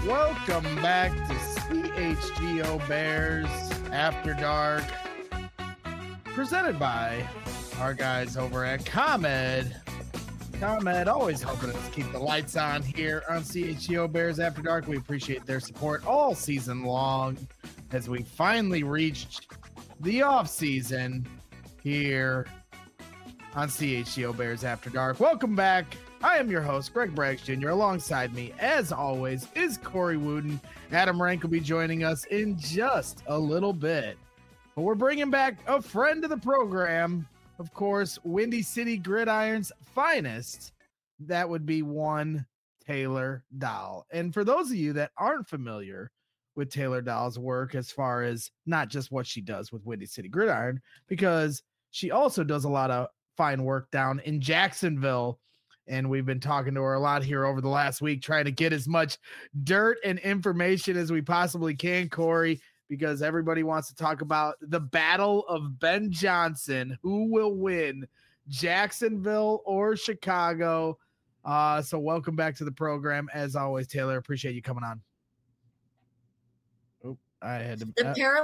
Welcome back to CHGO Bears After Dark, presented by our guys over at ComEd. ComEd always helping us keep the lights on here on CHGO Bears After Dark. We appreciate their support all season long as we finally reached the off season here on CHGO Bears After Dark. Welcome back. I am your host, Greg Braggs Jr. Alongside me, as always, is Corey Wooten. Adam Rank will be joining us in just a little bit. But we're bringing back a friend of the program, of course, Windy City Gridiron's finest. That would be one Taylor Dahl. And for those of you that aren't familiar with Taylor Dahl's work, as far as not just what she does with Windy City Gridiron, because she also does a lot of fine work down in Jacksonville. And we've been talking to her a lot here over the last week, trying to get as much dirt and information as we possibly can, Corey, because everybody wants to talk about the battle of Ben Johnson. Who will win, Jacksonville or Chicago? So welcome back to the program. As always, Taylor, appreciate you coming on. I had to,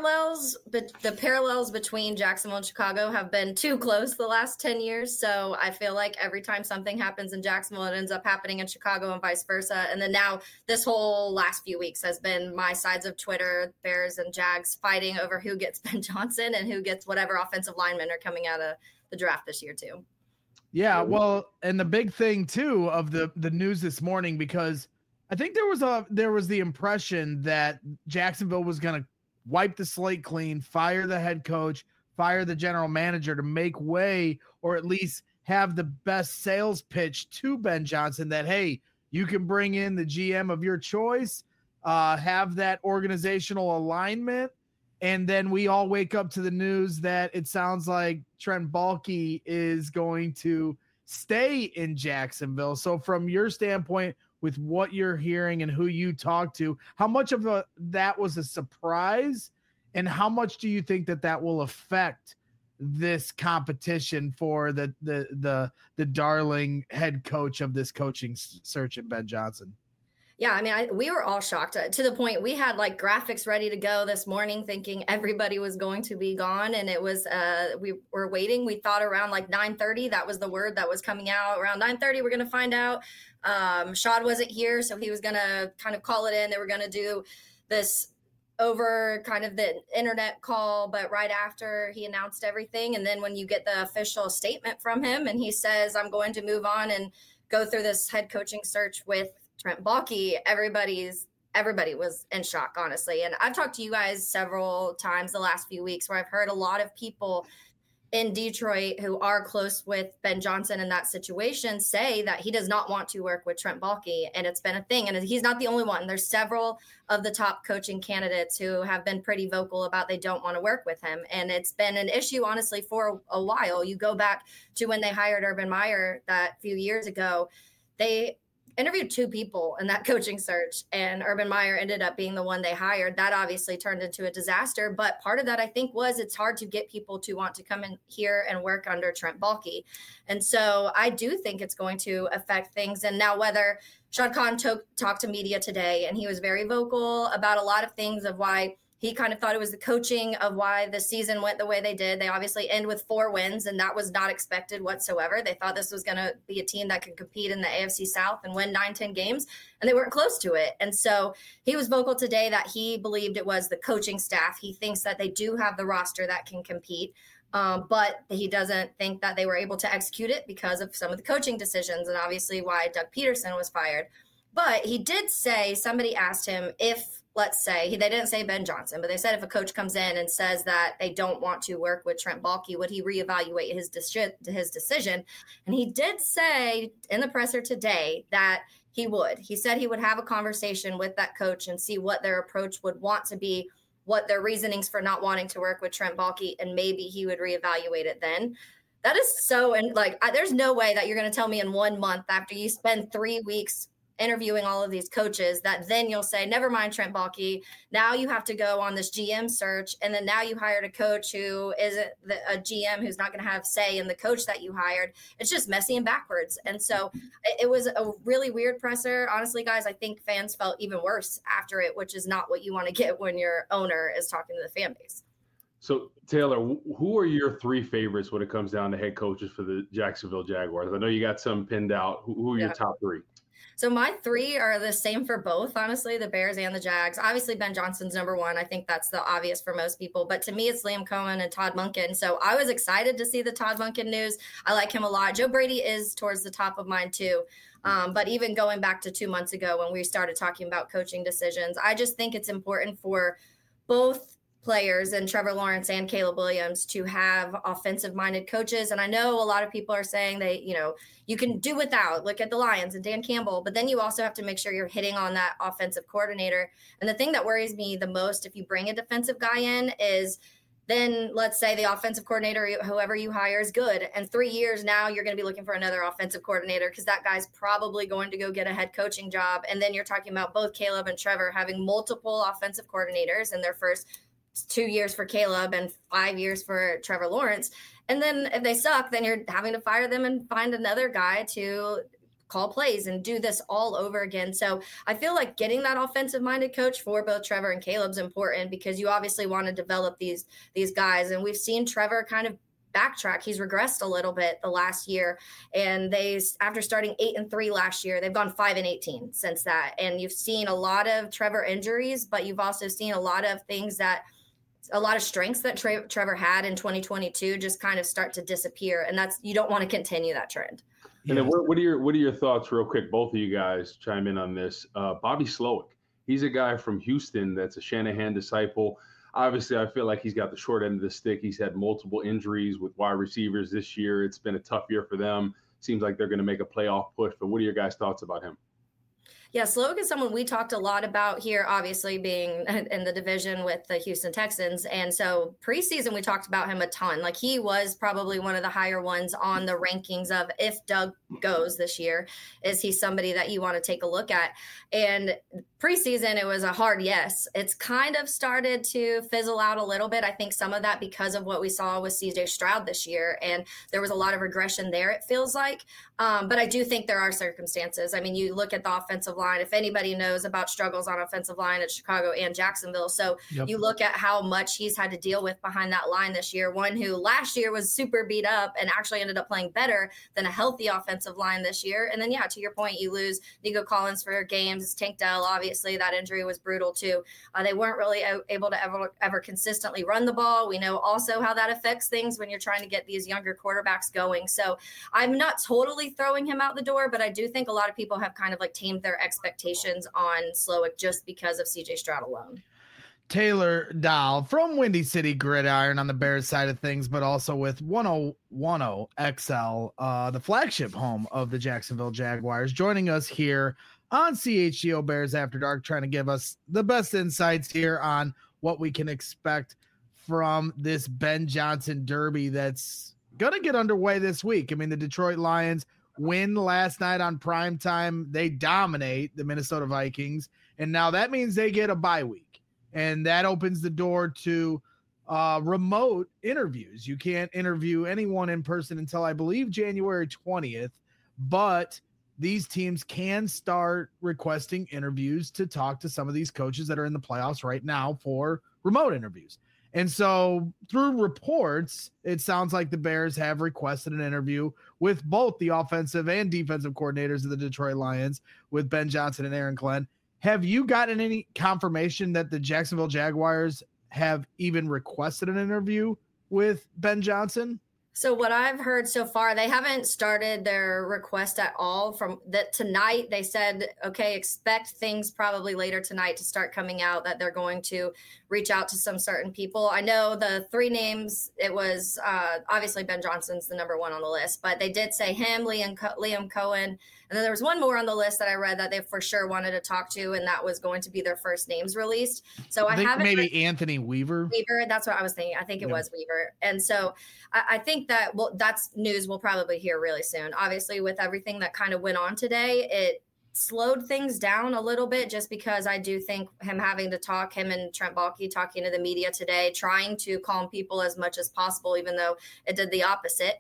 the parallels between Jacksonville and Chicago have been too close the last 10 years. So I feel like every time something happens in Jacksonville, it ends up happening in Chicago and vice versa. And then now this whole last few weeks has been my sides of Twitter, Bears and Jags fighting over who gets Ben Johnson and who gets whatever offensive linemen are coming out of the draft this year too. Yeah, well, and the big thing too of the news this morning, because I think there was the impression that Jacksonville was going to wipe the slate clean, fire the head coach, fire the general manager to make way, or at least have the best sales pitch to Ben Johnson that, hey, you can bring in the GM of your choice, have that organizational alignment. And then we all wake up to the news that it sounds like Trent Baalke is going to stay in Jacksonville. So from your standpoint, with what you're hearing and who you talk to, how much of that was a surprise, and how much do you think that will affect this competition for the darling head coach of this coaching search in Ben Johnson? Yeah, I mean, we were all shocked to the point we had like graphics ready to go this morning thinking everybody was going to be gone. And it was, we were waiting. We thought around like 9:30, that was the word that was coming out. Around 9:30, we're going to find out. Shad wasn't here, so he was going to kind of call it in. They were going to do this over kind of the internet call, but right after he announced everything. And then when you get the official statement from him and he says, I'm going to move on and go through this head coaching search with Trent Baalke, everybody was in shock, honestly. And I've talked to you guys several times the last few weeks where I've heard a lot of people in Detroit who are close with Ben Johnson in that situation say that he does not want to work with Trent Baalke. And it's been a thing. And he's not the only one. There's several of the top coaching candidates who have been pretty vocal about they don't want to work with him. And it's been an issue, honestly, for a while. You go back to when they hired Urban Meyer that few years ago, they interviewed two people in that coaching search, and Urban Meyer ended up being the one they hired. That obviously turned into a disaster. But part of that, I think, was it's hard to get people to want to come in here and work under Trent Baalke. And so I do think it's going to affect things. And now whether Shad Khan talked to media today, and he was very vocal about a lot of things of why he kind of thought it was the coaching of why the season went the way they did. They obviously end with 4 wins, and that was not expected whatsoever. They thought this was going to be a team that could compete in the AFC South and win 9-10 games, and they weren't close to it. And so he was vocal today that he believed it was the coaching staff. He thinks that they do have the roster that can compete, but he doesn't think that they were able to execute it because of some of the coaching decisions, and obviously why Doug Peterson was fired. But he did say, somebody asked him if, let's say, they didn't say Ben Johnson, but they said if a coach comes in and says that they don't want to work with Trent Baalke, would he reevaluate his decision? And he did say in the presser today that he would. He said he would have a conversation with that coach and see what their approach would want to be, what their reasonings for not wanting to work with Trent Baalke, and maybe he would reevaluate it then. That is so, and like, there's no way that you're going to tell me in 1 month after you spend 3 weeks interviewing all of these coaches that then you'll say, never mind Trent Baalke. Now you have to go on this GM search. And then now you hired a coach who isn't a GM who's not going to have say in the coach that you hired. It's just messy and backwards. And so it was a really weird presser. Honestly, guys, I think fans felt even worse after it, which is not what you want to get when your owner is talking to the fan base. So, Taylor, who are your three favorites when it comes down to head coaches for the Jacksonville Jaguars? I know you got some pinned out. Who are your top three? So my three are the same for both, honestly, the Bears and the Jags. Obviously, Ben Johnson's number one. I think that's the obvious for most people. But to me, it's Liam Cohen and Todd Monken. So I was excited to see the Todd Monken news. I like him a lot. Joe Brady is towards the top of mine, too. But even going back to 2 months ago when we started talking about coaching decisions, I just think it's important for both players and Trevor Lawrence and Caleb Williams to have offensive-minded coaches. And I know a lot of people are saying you can do without. Look at the Lions and Dan Campbell, but then you also have to make sure you're hitting on that offensive coordinator. And the thing that worries me the most if you bring a defensive guy in is then let's say the offensive coordinator, whoever you hire, is good. And 3 years now, you're going to be looking for another offensive coordinator because that guy's probably going to go get a head coaching job. And then you're talking about both Caleb and Trevor having multiple offensive coordinators in their first 2 years for Caleb and 5 years for Trevor Lawrence. And then if they suck, then you're having to fire them and find another guy to call plays and do this all over again. So I feel like getting that offensive minded coach for both Trevor and Caleb's important because you obviously want to develop these guys. And we've seen Trevor kind of backtrack. He's regressed a little bit the last year. And after starting 8-3 last year, they've gone 5-18 since that. And you've seen a lot of Trevor injuries, but you've also seen a lot of strengths that Trevor had in 2022 just kind of start to disappear. And you don't want to continue that trend. And then what are your thoughts real quick? Both of you guys chime in on this. Bobby Slowick, he's a guy from Houston that's a Shanahan disciple. Obviously, I feel like he's got the short end of the stick. He's had multiple injuries with wide receivers this year. It's been a tough year for them. Seems like they're going to make a playoff push. But what are your guys' thoughts about him? Yeah, Slowick is someone we talked a lot about here, obviously being in the division with the Houston Texans. And so preseason, we talked about him a ton. Like he was probably one of the higher ones on the rankings of if Doug goes this year, is he somebody that you want to take a look at? And preseason, it was a hard yes. It's kind of started to fizzle out a little bit. I think some of that because of what we saw with CJ Stroud this year. And there was a lot of regression there, it feels like. But I do think there are circumstances. I mean, you look at the offensive line, if anybody knows about struggles on offensive line at Chicago and Jacksonville. So You look at how much he's had to deal with behind that line this year, one who last year was super beat up and actually ended up playing better than a healthy offensive line this year. And then, yeah, to your point, you lose Nico Collins for games. Tank Dell, obviously, that injury was brutal too. They weren't really able to ever consistently run the ball. We know also how that affects things when you're trying to get these younger quarterbacks going. So I'm not totally throwing him out the door, but I do think a lot of people have kind of like tamed their expectations on Slowick just because of CJ Stroud alone. Taylor Dahl from Windy City Gridiron on the Bears side of things, but also with 1010 XL, the flagship home of the Jacksonville Jaguars, joining us here on CHGO Bears After Dark, trying to give us the best insights here on what we can expect from this Ben Johnson derby that's going to get underway this week. I mean, the Detroit Lions win last night on primetime. They dominate the Minnesota Vikings, and now that means they get a bye week, and that opens the door to remote interviews. You can't interview anyone in person until I believe January 20th, but these teams can start requesting interviews to talk to some of these coaches that are in the playoffs right now for remote interviews. And so through reports, it sounds like the Bears have requested an interview with both the offensive and defensive coordinators of the Detroit Lions, with Ben Johnson and Aaron Glenn. Have you gotten any confirmation that the Jacksonville Jaguars have even requested an interview with Ben Johnson? So what I've heard so far, they haven't started their request at all. From that tonight, they said, okay, expect things probably later tonight to start coming out, that they're going to reach out to some certain people. I know the three names, it was obviously Ben Johnson's the number one on the list, but they did say him, Liam Cohen. And then there was one more on the list that I read that they for sure wanted to talk to, and that was going to be their first names released. So I haven't maybe Anthony Weaver. That's what I was thinking. I think it was Weaver. And so I think that that's news we'll probably hear really soon. Obviously, with everything that kind of went on today, it slowed things down a little bit, just because I do think him having to talk, him and Trent Baalke talking to the media today, trying to calm people as much as possible, even though it did the opposite.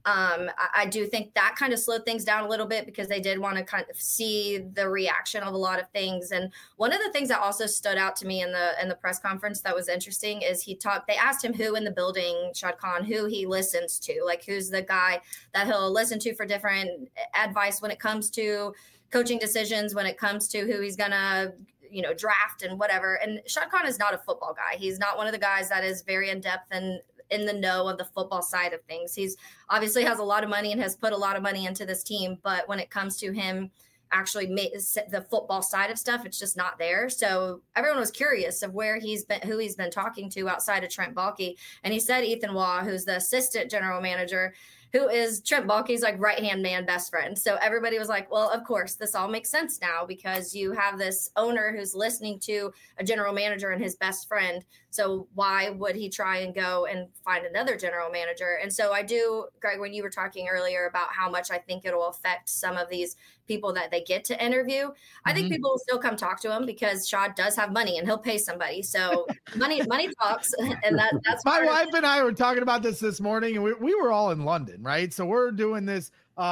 I do think that kind of slowed things down a little bit, because they did want to kind of see the reaction of a lot of things. And one of the things that also stood out to me in the press conference that was interesting is they asked him who in the building, Shad Khan, who he listens to, like who's the guy that he'll listen to for different advice when it comes to coaching decisions, when it comes to who he's gonna draft and whatever. And Shad Khan is not a football guy. He's not one of the guys that is very in depth and in the know of the football side of things. He's obviously has a lot of money and has put a lot of money into this team, but when it comes to him actually the football side of stuff, it's just not there. So everyone was curious of who he's been talking to outside of Trent Baalke. And he said Ethan Waugh, who's the assistant general manager, who is Trent Baalke's like right-hand man, best friend. So everybody was like, well, of course, this all makes sense now, because you have this owner who's listening to a general manager and his best friend. So why would he try and go and find another general manager? And so I do, Greg, when you were talking earlier about how much I think it'll affect some of these people that they get to interview, I think people will still come talk to him, because Shad does have money and he'll pay somebody. So money talks. And that's my wife and I were talking about this morning, and we were all in London, right? So we're doing this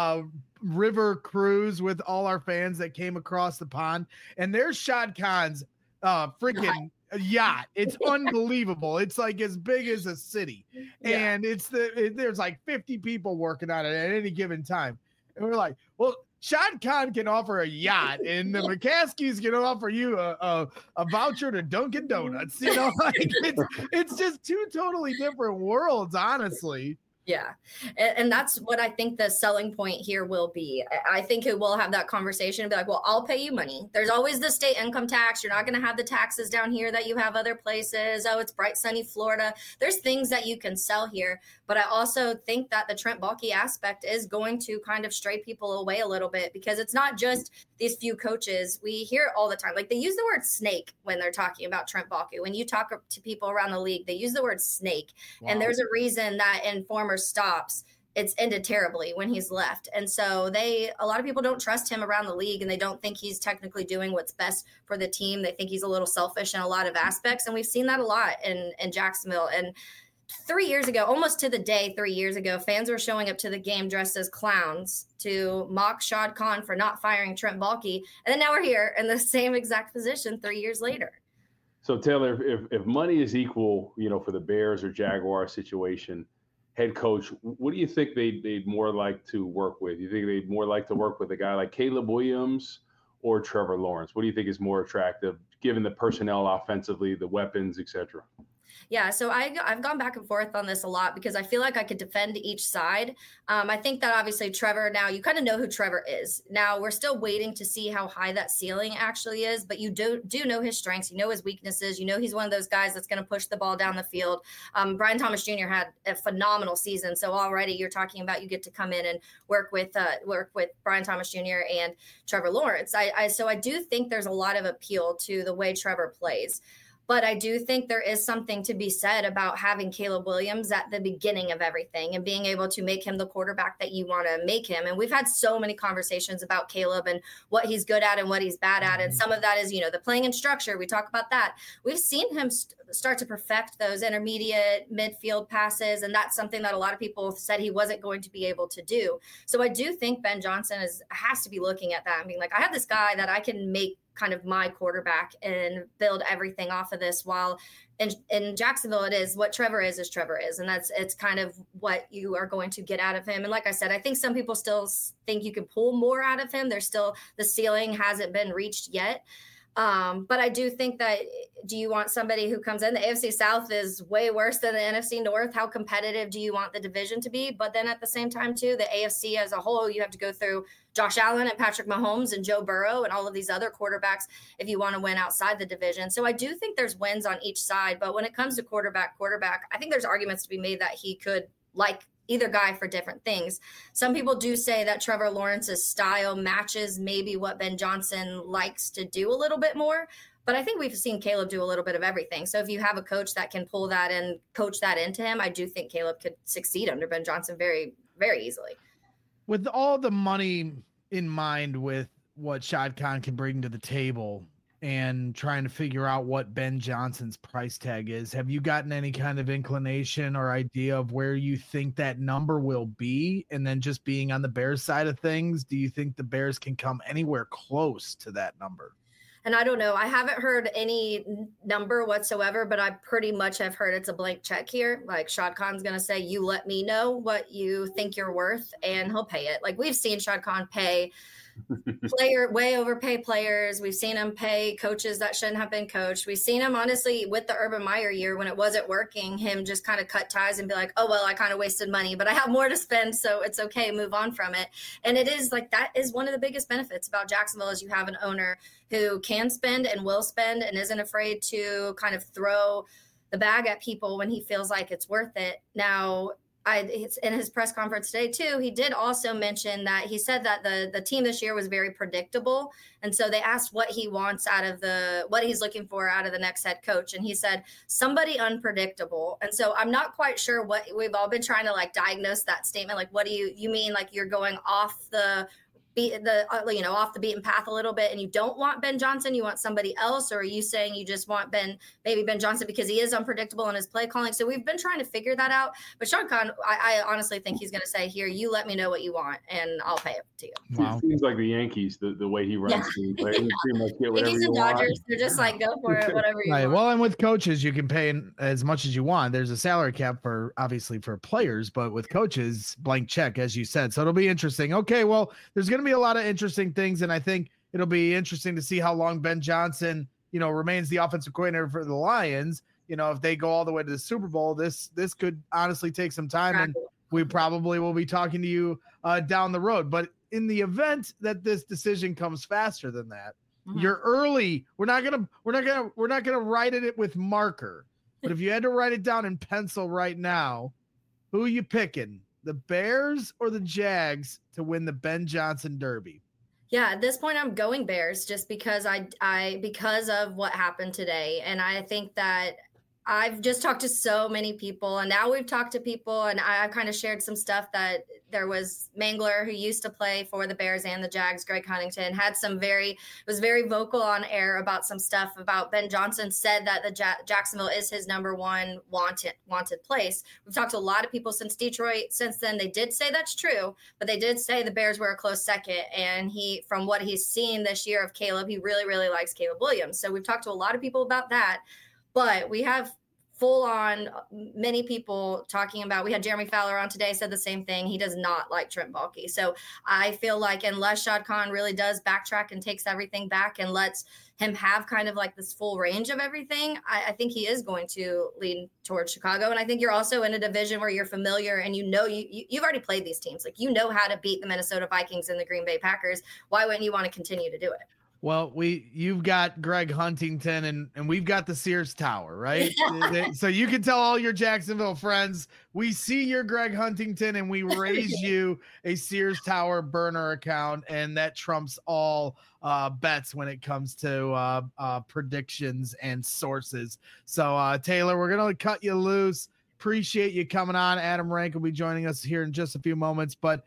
river cruise with all our fans that came across the pond, and there's Shad Khan's freaking yacht. It's unbelievable. It's like as big as a city, and there's like 50 people working on it at any given time. And we're like, well, Shad Khan can offer a yacht, and the McCaskies can offer you a voucher to Dunkin' Donuts. Like it's just two totally different worlds, honestly. Yeah. And that's what I think the selling point here will be. I think it will have that conversation and be like, well, I'll pay you money. There's always the state income tax. You're not going to have the taxes down here that you have other places. Oh, it's bright, sunny Florida. There's things that you can sell here. But I also think that the Trent Baalke aspect is going to kind of stray people away a little bit, because it's not just these few coaches. We hear it all the time. Like, they use the word snake when they're talking about Trent Baalke. When you talk to people around the league, they use the word snake. Wow. And there's a reason that in former stops, it's ended terribly when he's left. And so a lot of people don't trust him around the league, and they don't think he's technically doing what's best for the team. They think he's a little selfish in a lot of aspects. And we've seen that a lot in Jacksonville. And 3 years ago, almost to the day 3 years ago, fans were showing up to the game dressed as clowns to mock Shad Khan for not firing Trent Baalke. And then now we're here in the same exact position 3 years later. So Taylor, if money is equal, for the Bears or Jaguar situation, head coach, what do you think they'd more like to work with? You think they'd more like to work with a guy like Caleb Williams or Trevor Lawrence? What do you think is more attractive, given the personnel offensively, the weapons, et cetera? Yeah, so I've gone back and forth on this a lot, because I feel like I could defend each side. I think that obviously Trevor, now you kind of know who Trevor is. Now we're still waiting to see how high that ceiling actually is, but you do know his strengths. You know his weaknesses. You know he's one of those guys that's going to push the ball down the field. Brian Thomas Jr. had a phenomenal season, so already you're talking about you get to come in and work with Brian Thomas Jr. and Trevor Lawrence. So I do think there's a lot of appeal to the way Trevor plays. But I do think there is something to be said about having Caleb Williams at the beginning of everything and being able to make him the quarterback that you want to make him. And we've had so many conversations about Caleb and what he's good at and what he's bad at. And some of that is, the playing and structure. We talk about that. We've seen him start to perfect those intermediate midfield passes. And that's something that a lot of people said he wasn't going to be able to do. So I do think Ben Johnson has to be looking at that and being like, I have this guy that I can make kind of my quarterback and build everything off of this, while in Jacksonville, it is what Trevor is Trevor is. And it's kind of what you are going to get out of him. And like I said, I think some people still think you can pull more out of him. There's still, the ceiling hasn't been reached yet. But I do think that, do you want somebody who comes in? The AFC South is way worse than the NFC North. How competitive do you want the division to be? But then at the same time, too, the AFC as a whole, you have to go through Josh Allen and Patrick Mahomes and Joe Burrow and all of these other quarterbacks if you want to win outside the division. So I do think there's wins on each side. But when it comes to quarterback, I think there's arguments to be made that he could like either guy for different things. Some people do say that Trevor Lawrence's style matches maybe what Ben Johnson likes to do a little bit more. But I think we've seen Caleb do a little bit of everything. So if you have a coach that can pull that and coach that into him, I do think Caleb could succeed under Ben Johnson very, very easily. With all the money in mind with what Shad Khan can bring to the table and trying to figure out what Ben Johnson's price tag is. Have you gotten any kind of inclination or idea of where you think that number will be? And then just being on the Bears side of things, do you think the Bears can come anywhere close to that number? And I don't know. I haven't heard any number whatsoever, but I pretty much have heard it's a blank check here. Like Shad Khan's going to say, you let me know what you think you're worth, and he'll pay it. Like we've seen Shad Khan pay way overpay players. We've seen him pay coaches that shouldn't have been coached. We've seen him, honestly, with the Urban Meyer year when it wasn't working, him just kind of cut ties and be like, oh, well, I kind of wasted money, but I have more to spend, so it's okay, move on from it. And it is like that is one of the biggest benefits about Jacksonville is you have an owner who can spend and will spend and isn't afraid to kind of throw the bag at people when he feels like it's worth it. Now, it's in his press conference today too, he did also mention that he said that the team this year was very predictable. And so they asked what he wants what he's looking for out of the next head coach. And he said, somebody unpredictable. And so I'm not quite sure what we've all been trying to like diagnose that statement. Like, what do you mean? Like you're going off the off the beaten path a little bit and you don't want Ben Johnson, you want somebody else? Or are you saying you just want Ben Johnson because he is unpredictable in his play calling? So we've been trying to figure that out. But Shad Khan, I honestly think he's going to say, here, you let me know what you want and I'll pay it to you. Wow. It seems like the Yankees, the way he runs things. Right? You pretty much get whatever Yankees and Dodgers, they're just like, go for it, whatever you want. Well, and with coaches, you can pay as much as you want. There's a salary cap obviously for players, but with coaches, blank check, as you said. So it'll be interesting. Okay, well, there's going to be a lot of interesting things, and I think it'll be interesting to see how long Ben Johnson, remains the offensive coordinator for the Lions. If they go all the way to the Super Bowl, this could honestly take some time, and we probably will be talking to you down the road. But in the event that this decision comes faster than that, you're early. We're not gonna write it with marker. But if you had to write it down in pencil right now, who are you picking? The Bears or the Jags to win the Ben Johnson Derby? Yeah, at this point, I'm going Bears just because because of what happened today. And I think that I've just talked to so many people, and now we've talked to people, and I kind of shared some stuff that there was Mangler, who used to play for the Bears and the Jags, Greg Huntington, was very vocal on air about some stuff about Ben Johnson, said that the Jacksonville is his number one wanted place. We've talked to a lot of people since Detroit. Since then, they did say that's true, but they did say the Bears were a close second. And from what he's seen this year of Caleb, he really, really likes Caleb Williams. So we've talked to a lot of people about that. But we have full on many people talking about, we had Jeremy Fowler on today, said the same thing. He does not like Trent Baalke. So I feel like unless Shad Khan really does backtrack and takes everything back and lets him have kind of like this full range of everything, I think he is going to lean towards Chicago. And I think you're also in a division where you're familiar and you've already played these teams. Like, how to beat the Minnesota Vikings and the Green Bay Packers. Why wouldn't you want to continue to do it? Well, you've got Greg Huntington and we've got the Sears Tower, right? So you can tell all your Jacksonville friends, we see your Greg Huntington and we raise you a Sears Tower burner account, and that trumps all bets when it comes to predictions and sources. So Taylor, we're going to cut you loose. Appreciate you coming on. Adam Rank will be joining us here in just a few moments. But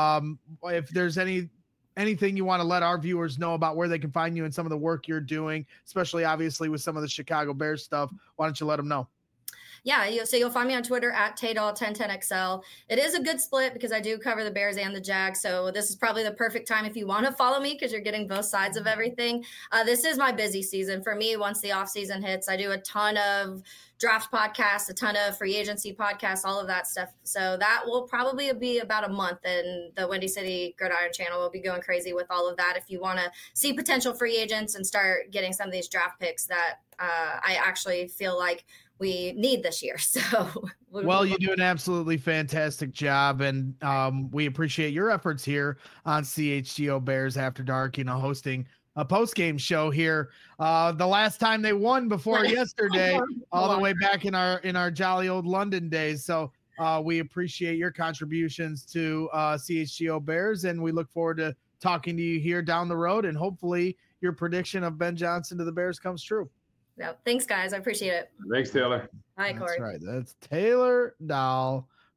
if there's anything you want to let our viewers know about where they can find you and some of the work you're doing, especially obviously with some of the Chicago Bears stuff, why don't you let them know? Yeah, so you'll find me on Twitter at Taydol1010XL. It is a good split because I do cover the Bears and the Jags, so this is probably the perfect time if you want to follow me because you're getting both sides of everything. This is my busy season. For me, once the off season hits, I do a ton of draft podcasts, a ton of free agency podcasts, all of that stuff. So that will probably be about a month, and the Windy City Gridiron channel will be going crazy with all of that. If you want to see potential free agents and start getting some of these draft picks that I actually feel like we need this year. So well, you do an absolutely fantastic job, and we appreciate your efforts here on CHGO Bears After Dark, hosting a post-game show here. The last time they won before yesterday, all the way back in our jolly old London days. So we appreciate your contributions to CHGO Bears, and we look forward to talking to you here down the road, and hopefully your prediction of Ben Johnson to the Bears comes true. Yeah, thanks, guys. I appreciate it. Thanks, Taylor. Hi, Corey. That's right. That's Taylor Dahl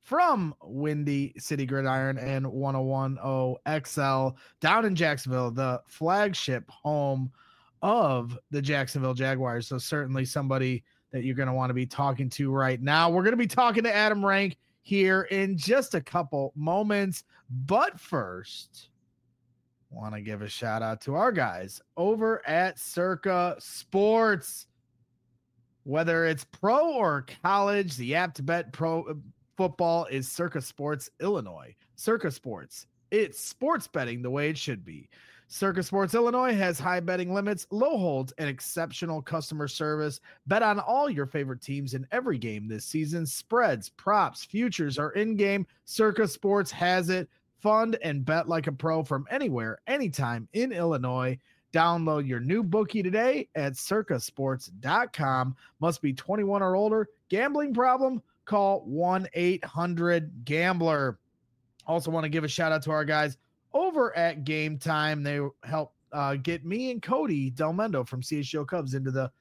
from Windy City Gridiron and 1010 XL down in Jacksonville, the flagship home of the Jacksonville Jaguars. So certainly somebody that you're going to want to be talking to right now. We're going to be talking to Adam Rank here in just a couple moments. But first, want to give a shout out to our guys over at Circa Sports. Whether it's pro or college, the app to bet pro football is Circa Sports Illinois. Circa Sports, it's sports betting the way it should be. Circa Sports Illinois has high betting limits, low holds, and exceptional customer service. Bet on all your favorite teams in every game this season. Spreads, props, futures are in-game. Circa Sports has it. Fund and bet like a pro from anywhere, anytime in Illinois. Download your new bookie today at circasports.com. Must be 21 or older. Gambling problem? Call 1-800-GAMBLER. Also want to give a shout out to our guys over at Game Time. They help get me and Cody Delmendo from CHGO Cubs into the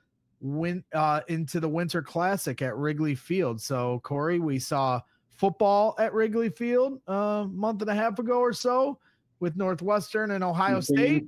Winter Classic at Wrigley Field. So Corey, we saw football at Wrigley Field a month and a half ago or so with Northwestern and Ohio State.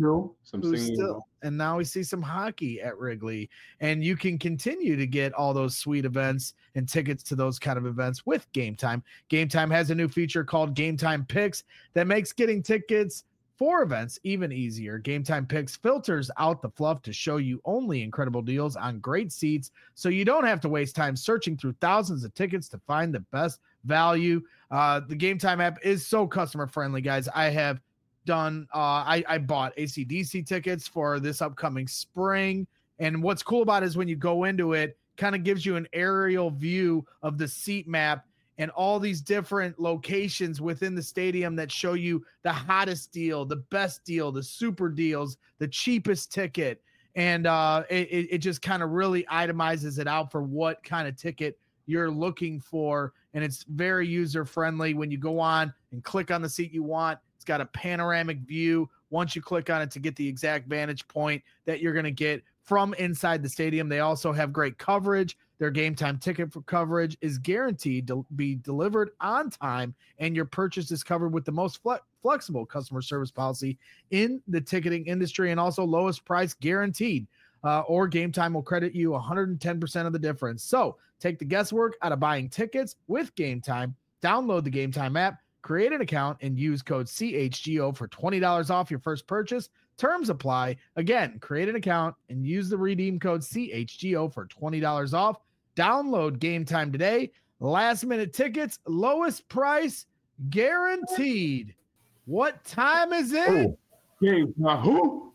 And now we see some hockey at Wrigley. And you can continue to get all those sweet events and tickets to those kind of events with Game Time. Game Time has a new feature called Game Time Picks that makes getting tickets for events even easier. Game Time Picks filters out the fluff to show you only incredible deals on great seats, so you don't have to waste time searching through thousands of tickets to find the best value. The Game Time app is so customer friendly, guys. I have done I bought AC/DC tickets for this upcoming spring, and what's cool about it is when you go into it, kind of gives you an aerial view of the seat map and all these different locations within the stadium that show you the hottest deal, the best deal, the super deals, the cheapest ticket, and it just kind of really itemizes it out for what kind of ticket you're looking for. And it's very user friendly. When you go on and click on the seat you want, it's got a panoramic view once you click on it to get the exact vantage point that you're going to get from inside the stadium. They also have great coverage. Their Game Time ticket for coverage is guaranteed to be delivered on time, and your purchase is covered with the most flexible customer service policy in the ticketing industry, and also lowest price guaranteed. Or Game Time will credit you 110% of the difference. So take the guesswork out of buying tickets with Game Time. Download the Game Time app, create an account, and use code CHGO for $20 off your first purchase. Terms apply. Again, create an account and use the redeem code CHGO for $20 off. Download Game Time today. Last minute tickets, lowest price guaranteed. What time is it? Game Who?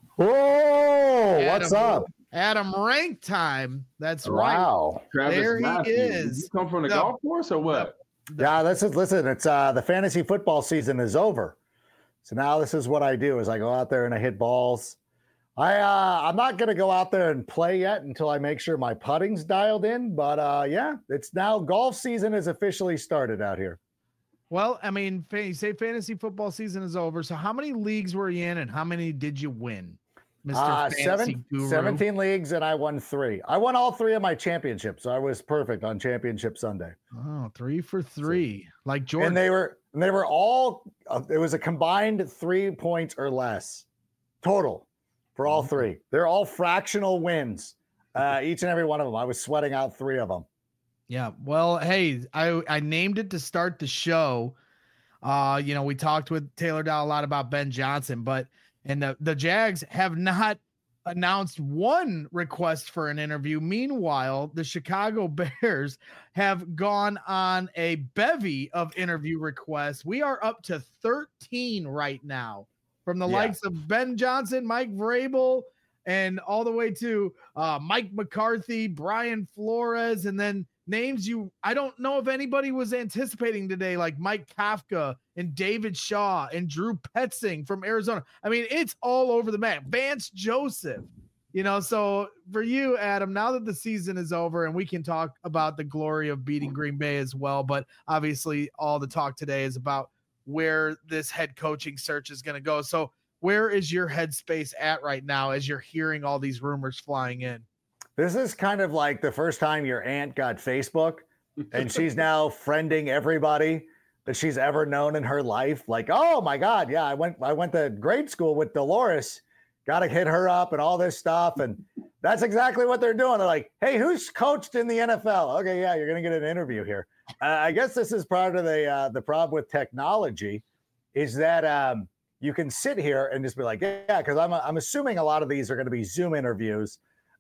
Whoa, what's up? Adam Rank time. That's wow. Right. There Matthews. he is. You come from the golf course or what? Yeah, listen, it's the fantasy football season is over. So now this is what I do is I go out there and I hit balls. I'm not going to go out there and play yet until I make sure my putting's dialed in. But yeah, it's now golf season has officially started out here. Well, I mean, you say fantasy football season is over. So how many leagues were you in and how many did you win? Mr. Fantasy Guru? 17 leagues and I won 3. I won all 3 of my championships. So I was perfect on Championship Sunday. Oh, 3 for 3. Like Jordan. And they were all, it was a combined 3 points or less total for all 3. They're all fractional wins. Each and every one of them. I was sweating out 3 of them. Yeah. Well, hey, I named it to start the show. We talked with Taylor Dow a lot about Ben Johnson, and the Jags have not announced one request for an interview. Meanwhile, the Chicago Bears have gone on a bevy of interview requests. We are up to 13 right now from the likes of Ben Johnson, Mike Vrabel, and all the way to Mike McCarthy, Brian Flores, and then names I don't know if anybody was anticipating today, like Mike Kafka and David Shaw and Drew Petzing from Arizona. I mean, it's all over the map. Vance Joseph, so for you, Adam, now that the season is over and we can talk about the glory of beating Green Bay as well, but obviously all the talk today is about where this head coaching search is going to go. So where is your headspace at right now as you're hearing all these rumors flying in? This is kind of like the first time your aunt got Facebook and she's now friending everybody that she's ever known in her life. Like, oh my God, yeah, I went to grade school with Dolores. Got to hit her up and all this stuff. And that's exactly what they're doing. They're like, hey, who's coached in the NFL? Okay, yeah, you're going to get an interview here. I guess this is part of the problem with technology is that you can sit here and just be like, yeah, because I'm assuming a lot of these are going to be Zoom interviews,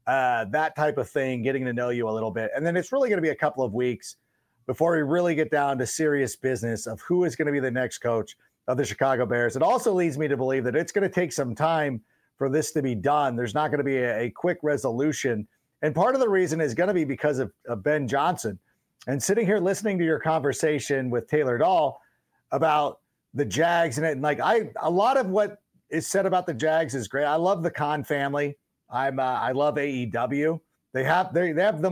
that type of thing, getting to know you a little bit. And then it's really going to be a couple of weeks before we really get down to serious business of who is going to be the next coach of the Chicago Bears. It also leads me to believe that it's going to take some time for this to be done. There's not going to be a quick resolution. And part of the reason is going to be because of Ben Johnson. And sitting here listening to your conversation with Taylor Dahl about the Jags and like a lot of what is said about the Jags is great. I love the Khan family. I love AEW. They have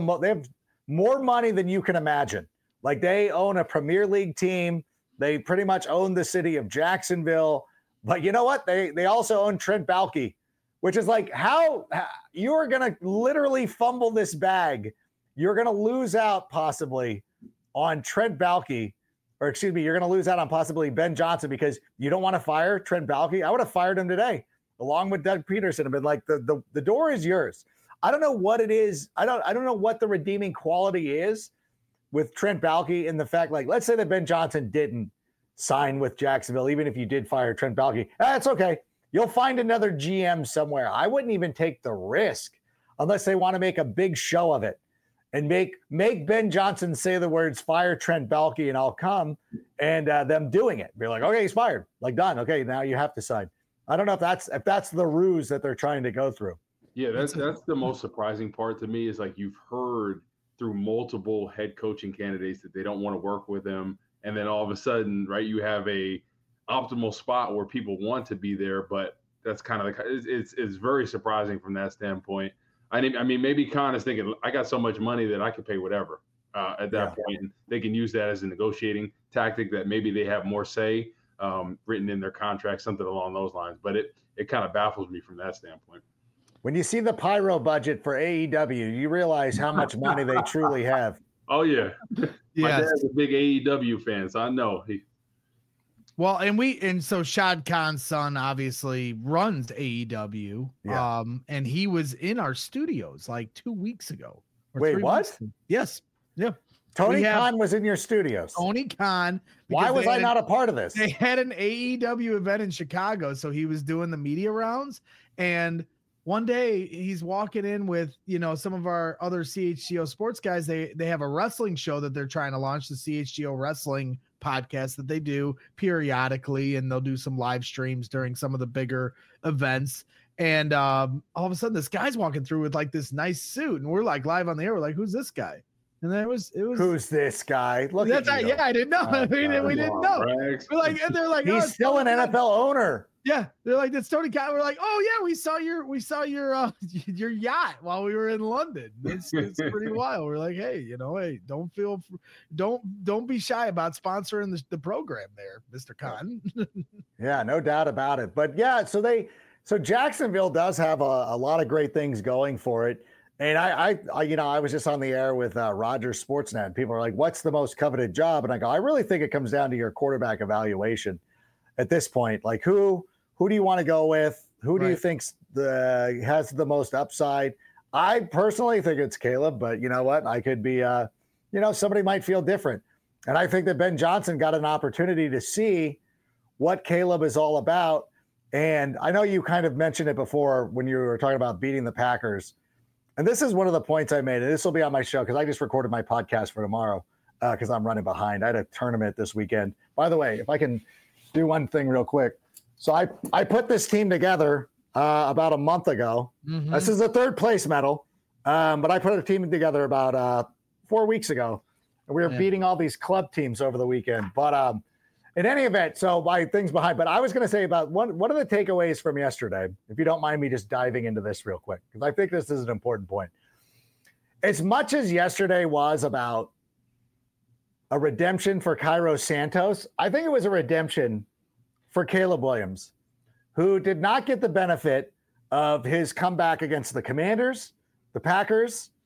more money than you can imagine. Like they own a Premier League team. They pretty much own the city of Jacksonville. But you know what? They also own Trent Baalke, which is like how you are going to literally fumble this bag. You're going to lose out possibly on Trent Baalke, or excuse me, you're going to lose out on possibly Ben Johnson because you don't want to fire Trent Baalke. I would have fired him today along with Doug Peterson and been like, the door is yours. I don't know what it is. I don't know what the redeeming quality is with Trent Baalke in the fact, like, let's say that Ben Johnson didn't sign with Jacksonville, even if you did fire Trent Baalke. That's okay. You'll find another GM somewhere. I wouldn't even take the risk unless they want to make a big show of it and make Ben Johnson say the words, fire Trent Baalke and I'll come, and them doing it. Be like, okay, he's fired. Like, done. Okay, now you have to sign. I don't know if that's the ruse that they're trying to go through. Yeah, that's the most surprising part to me is like you've heard through multiple head coaching candidates that they don't want to work with him. And then all of a sudden, right, you have a optimal spot where people want to be there, but that's kind of it's very surprising from that standpoint. I mean, maybe Khan is thinking, I got so much money that I can pay whatever at that point. And they can use that as a negotiating tactic that maybe they have more say written in their contract, something along those lines. But it kind of baffles me from that standpoint. When you see the pyro budget for AEW, you realize how much money they truly have. Oh, yeah. My dad's a big AEW fan, so I know. Well, and so Shad Khan's son obviously runs AEW. Yeah. And he was in our studios like 2 weeks ago. Wait, what? Yes. Yeah. Tony Khan was in your studios. Tony Khan. Why was I not a part of this? They had an AEW event in Chicago, so he was doing the media rounds. And one day he's walking in with, some of our other CHGO sports guys. They have a wrestling show that they're trying to launch, the CHGO Wrestling podcast that they do periodically, and they'll do some live streams during some of the bigger events. And all of a sudden this guy's walking through with like this nice suit, and we're like live on the air. We're like, who's this guy? And then it was who's this guy? Look, that's right. Yeah, I didn't know. We didn't know. We're like, and they're like, he's still an NFL owner. Yeah, they're like, that's Tony Khan. We're like, oh yeah, we saw your yacht while we were in London. It's pretty wild. We're like, hey, don't be shy about sponsoring the program there, Mr. Khan. Yeah, no doubt about it. But yeah, so Jacksonville does have a lot of great things going for it. And I was just on the air with Rogers Sportsnet. People are like, what's the most coveted job? And I go, I really think it comes down to your quarterback evaluation at this point. Like, who do you want to go with? Who do you think has the most upside? I personally think it's Caleb, but you know what? I could be, somebody might feel different. And I think that Ben Johnson got an opportunity to see what Caleb is all about. And I know you kind of mentioned it before when you were talking about beating the Packers. And this is one of the points I made, and this will be on my show because I just recorded my podcast for tomorrow because I'm running behind. I had a tournament this weekend. By the way, if I can do one thing real quick. So I put this team together about a month ago. Mm-hmm. This is a third place medal, but I put a team together about 4 weeks ago. And we were beating all these club teams over the weekend. But in any event, so my things behind. But I was going to say about what are the takeaways from yesterday, if you don't mind me just diving into this real quick, because I think this is an important point. As much as yesterday was about a redemption for Cairo Santos, I think it was a redemption for Caleb Williams, who did not get the benefit of his comeback against the Commanders, the Packers,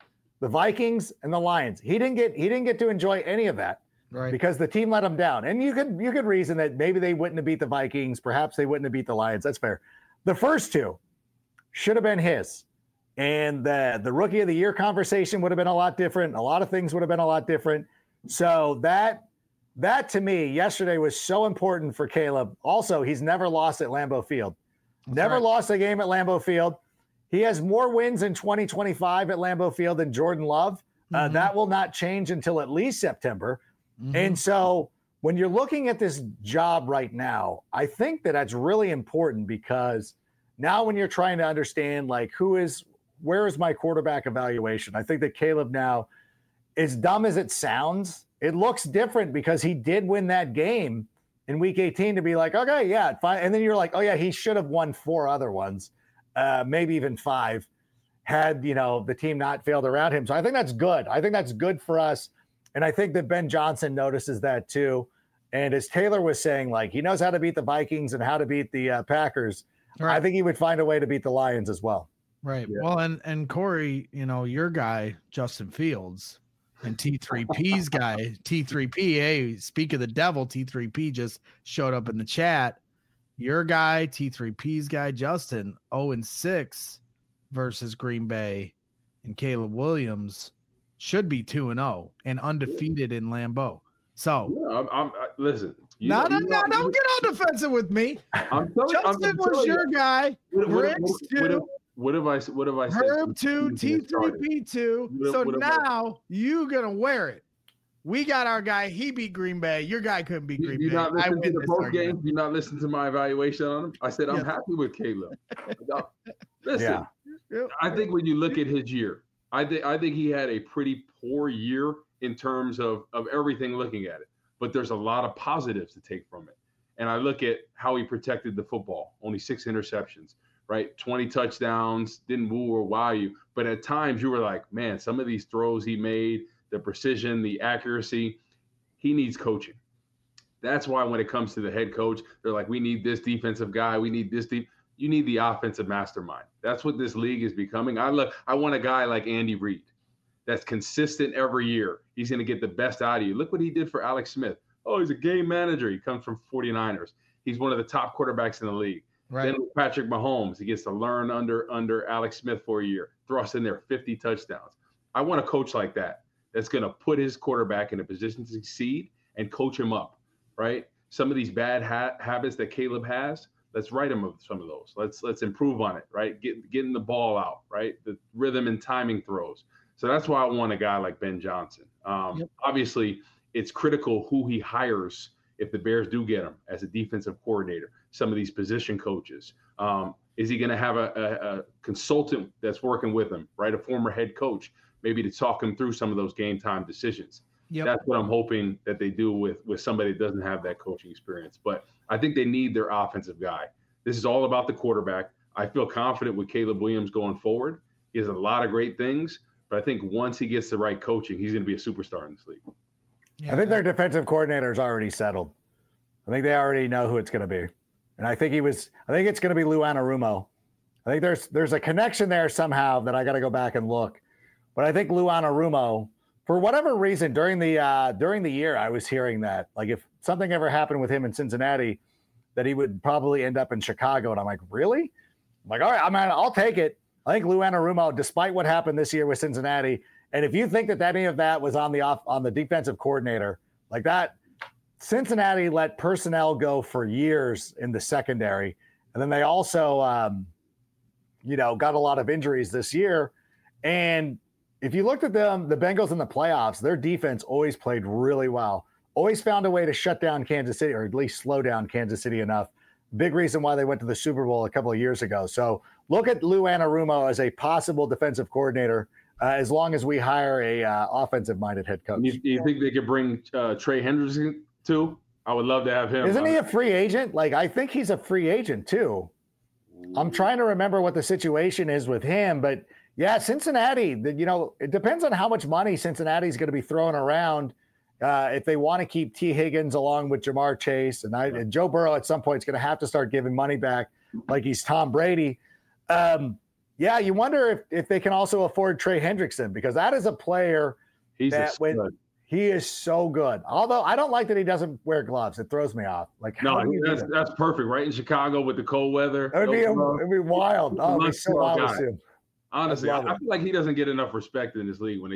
the Vikings, and the Lions. He didn't get to enjoy any of that. Right. Because the team let him down. And you could reason that maybe they wouldn't have beat the Vikings. Perhaps they wouldn't have beat the Lions. That's fair. The first two should have been his. And the Rookie of the Year conversation would have been a lot different. A lot of things would have been a lot different. So that to me, yesterday was so important for Caleb. Also, he's never lost at Lambeau Field. Never lost a game at Lambeau Field. He has more wins in 2025 at Lambeau Field than Jordan Love. That will not change until at least September. And so when you're looking at this job right now, I think that's really important because now when you're trying to understand like where is my quarterback evaluation? I think that Caleb now, as dumb as it sounds, it looks different because he did win that game in week 18 to be like, okay, yeah, fine. And then you're like, oh yeah, he should have won 4 other ones, maybe even 5 had, the team not failed around him. So I think that's good. I think that's good for us. And I think that Ben Johnson notices that too. And as Taylor was saying, like he knows how to beat the Vikings and how to beat the Packers. Right. I think he would find a way to beat the Lions as well. Right. Yeah. Well, and Corey, your guy, Justin Fields, and T3P's guy, T3P. Hey, speak of the devil, T3P just showed up in the chat. Your guy, T3P's guy, Justin, 0-6 versus Green Bay, and Caleb Williams should be 2-0 and undefeated in Lambeau. So listen. Don't get all defensive with me. Justin was your guy. Riggs 2. What have I said? Herb 2, T3P 2. So now you gonna wear it. We got our guy. He beat Green Bay. Your guy couldn't beat Green Bay. You not listen to the post game. You not listen to my evaluation on him. I said I'm happy with Caleb. Listen, I think when you look at his year, I think he had a pretty poor year in terms of everything looking at it. But there's a lot of positives to take from it. And I look at how he protected the football. Only 6 interceptions, right? 20 touchdowns, didn't woo or wow you. But at times you were like, man, some of these throws he made, the precision, the accuracy, he needs coaching. That's why when it comes to the head coach, they're like, we need this defensive guy. We need this deep. You need the offensive mastermind. That's what this league is becoming. I want a guy like Andy Reid that's consistent every year. He's going to get the best out of you. Look what he did for Alex Smith. Oh, he's a game manager. He comes from 49ers. He's one of the top quarterbacks in the league. Right. Then with Patrick Mahomes, he gets to learn under Alex Smith for a year. Thrust in there 50 touchdowns. I want a coach like that that's going to put his quarterback in a position to succeed and coach him up, right? Some of these bad habits that Caleb has, let's write him of some of those. Let's improve on it, right? Getting the ball out, right? The rhythm and timing throws. So that's why I want a guy like Ben Johnson. Obviously, it's critical who he hires if the Bears do get him as a defensive coordinator. Some of these position coaches. Is he going to have a consultant that's working with him, right? A former head coach, maybe to talk him through some of those game time decisions. Yep. That's what I'm hoping that they do with somebody that doesn't have that coaching experience. But I think they need their offensive guy. This is all about the quarterback. I feel confident with Caleb Williams going forward. He has a lot of great things, but I think once he gets the right coaching, he's going to be a superstar in this league. Yeah. I think their defensive coordinator is already settled. I think they already know who it's going to be. And I think it's going to be Lou Anarumo. I think there's a connection there somehow that I got to go back and look. But I think Lou Anarumo, for whatever reason, during the year, I was hearing that, like, if something ever happened with him in Cincinnati, that he would probably end up in Chicago. And I'm like, really? I'm like, all right, I'll take it. I think Lou Anarumo, despite what happened this year with Cincinnati, and if you think that any of that was on the defensive coordinator, like that, Cincinnati let personnel go for years in the secondary. And then they also, got a lot of injuries this year. And if you looked at them, the Bengals in the playoffs, their defense always played really well. Always found a way to shut down Kansas City, or at least slow down Kansas City enough. Big reason why they went to the Super Bowl a couple of years ago. So look at Lou Anarumo as a possible defensive coordinator, as long as we hire a offensive-minded head coach. You think they could bring Trey Hendrickson too? I would love to have him. Isn't he a free agent? Like, I think he's a free agent too. I'm trying to remember what the situation is with him, but yeah, Cincinnati, it depends on how much money Cincinnati's going to be throwing around if they want to keep T. Higgins along with Jamar Chase. And Joe Burrow at some point is going to have to start giving money back like he's Tom Brady. Yeah, you wonder if they can also afford Trey Hendrickson, because that is a player He's a stud. He is so good. Although I don't like that he doesn't wear gloves. It throws me off. Like, that's perfect, right? In Chicago with the cold weather. It'd be wild. Oh, it'd be so awesome. Honestly, I feel like he doesn't get enough respect in this league when they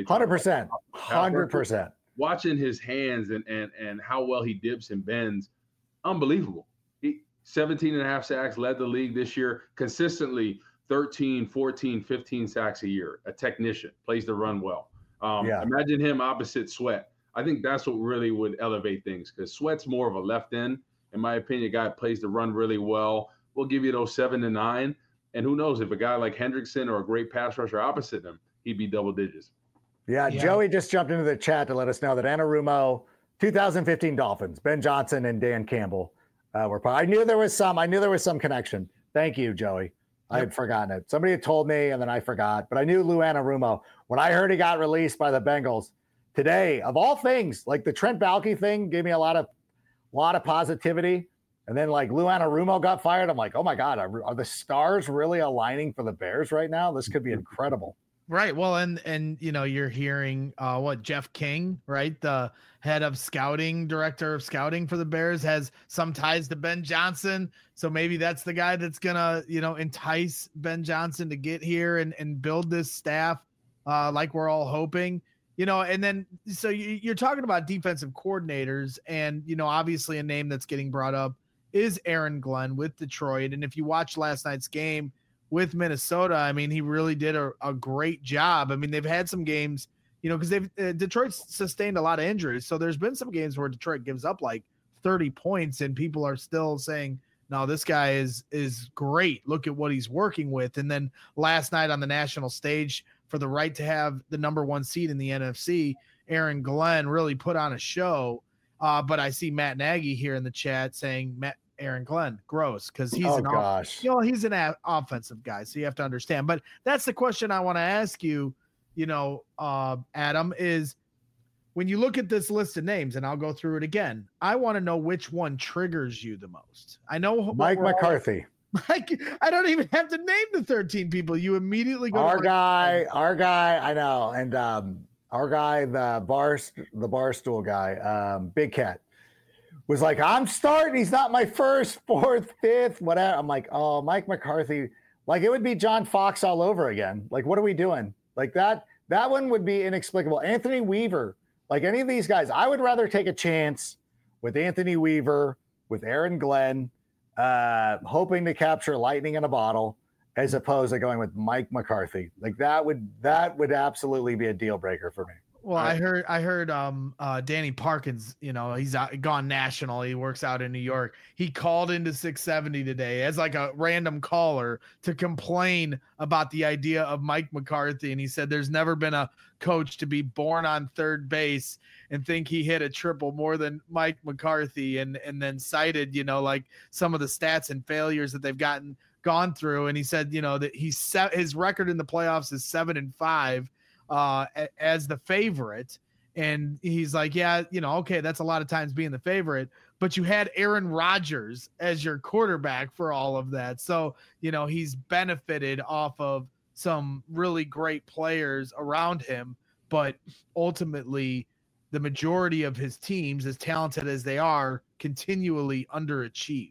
100%. Watching his hands and how well he dips and bends, unbelievable. 17 and a half sacks, led the league this year, consistently 13, 14, 15 sacks a year. A technician, plays the run well. Imagine him opposite Sweat. I think that's what really would elevate things, because Sweat's more of a left end. In my opinion, a guy plays the run really well. We'll give you those 7 to 9. And who knows, if a guy like Hendrickson or a great pass rusher opposite him, he'd be double digits. Yeah, Joey just jumped into the chat to let us know that Anarumo, 2015 Dolphins, Ben Johnson and Dan Campbell were part. I knew there was some connection. Thank you, Joey. I had forgotten it. Somebody had told me and then I forgot, but I knew Lou Anarumo. When I heard he got released by the Bengals today, of all things, like the Trent Baalke thing gave me a lot of positivity. And then like Lou Anarumo got fired. I'm like, oh my God, are the stars really aligning for the Bears right now? This could be incredible. Right. Well, and you're hearing Jeff King, right? The head of director of scouting for the Bears, has some ties to Ben Johnson. So maybe that's the guy that's gonna, entice Ben Johnson to get here and build this staff like we're all hoping. And then so you're talking about defensive coordinators, and obviously a name that's getting brought up is Aaron Glenn with Detroit. And if you watch last night's game with Minnesota, I mean, he really did a great job. I mean, they've had some games, because Detroit's sustained a lot of injuries. So there's been some games where Detroit gives up like 30 points and people are still saying, no, this guy is great. Look at what he's working with. And then last night on the national stage for the right to have the number 1 seed in the NFC, Aaron Glenn really put on a show. But I see Matt Nagy here in the chat saying Aaron Glenn, gross, because he's he's an offensive guy, so you have to understand. But that's the question I want to ask you, Adam, is when you look at this list of names, and I'll go through it again, I want to know which one triggers you the most. I know Mike McCarthy. I don't even have to name the 13 people. You immediately go. Our guy, I know, and our guy, the Barstool guy, Big Cat, was like, I'm starting. He's not my first, fourth, fifth, whatever. I'm like, oh, Mike McCarthy. Like, it would be John Fox all over again. Like, what are we doing? Like, that one would be inexplicable. Anthony Weaver, like any of these guys, I would rather take a chance with Anthony Weaver, with Aaron Glenn, hoping to capture lightning in a bottle, as opposed to going with Mike McCarthy. Like, that would absolutely be a deal breaker for me. Well, I heard Danny Parkins, he's gone national. He works out in New York. He called into 670 today as like a random caller to complain about the idea of Mike McCarthy. And he said there's never been a coach to be born on third base and think he hit a triple more than Mike McCarthy, and then cited, like some of the stats and failures that they've gone through. And he said, that his record in the playoffs is 7-5. As the favorite. And he's like, yeah, okay, that's a lot of times being the favorite, but you had Aaron Rodgers as your quarterback for all of that. So, he's benefited off of some really great players around him, but ultimately the majority of his teams, as talented as they are, continually underachieve.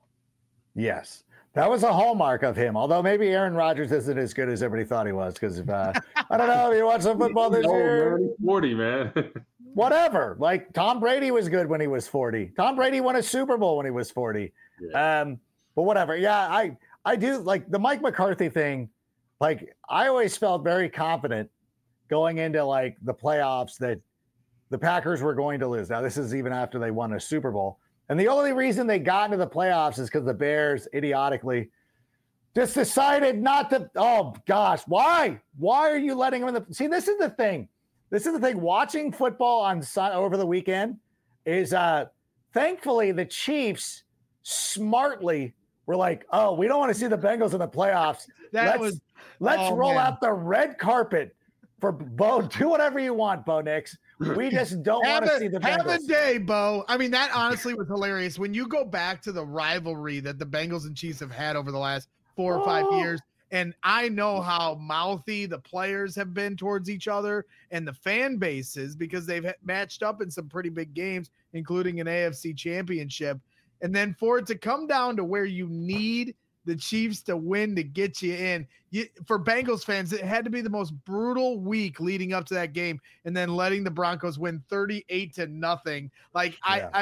Yes. That was a hallmark of him, although maybe Aaron Rodgers isn't as good as everybody thought he was, because I don't know, you watch some football this year. 40, man. Whatever. Like, Tom Brady was good when he was 40. Tom Brady won a Super Bowl when he was 40. Yeah. But whatever. Yeah, I do like the Mike McCarthy thing. Like, I always felt very confident going into like the playoffs that the Packers were going to lose. Now, this is even after they won a Super Bowl. And the only reason they got into the playoffs is because the Bears idiotically just decided not to. Oh, gosh. Why? Why are you letting them in the – see, this is the thing. Watching football over the weekend is thankfully the Chiefs smartly were like, oh, we don't want to see the Bengals in the playoffs. Let's roll out the red carpet for Bo. Do whatever you want, Bo Nix. We just don't want to see the Bengals. Have a day, Bo. I mean, that honestly was hilarious. When you go back to the rivalry that the Bengals and Chiefs have had over the last 4 or 5 years, And I know how mouthy the players have been towards each other and the fan bases because they've matched up in some pretty big games, including an AFC championship. And then for it to come down to where you need the Chiefs to win to get you in, for Bengals fans, it had to be the most brutal week leading up to that game, and then letting the Broncos win 38-0. Like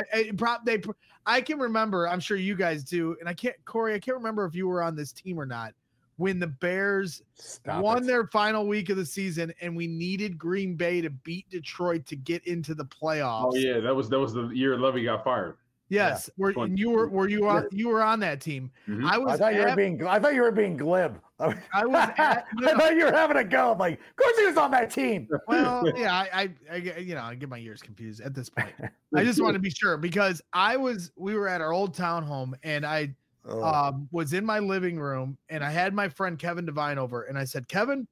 I can remember, I'm sure you guys do, and Corey, I can't remember if you were on this team or not, when the Bears won their final week of the season and we needed Green Bay to beat Detroit to get into the playoffs. Oh yeah, that was the year Lovey got fired. Yes, yeah. You were on that team. Mm-hmm. I thought you were being glib. I thought you were having a go. I'm like, of course he was on that team. Well, yeah, I get my ears confused at this point. I just want to be sure because we were at our old townhome and I was in my living room and I had my friend Kevin Devine over and I said, Kevin,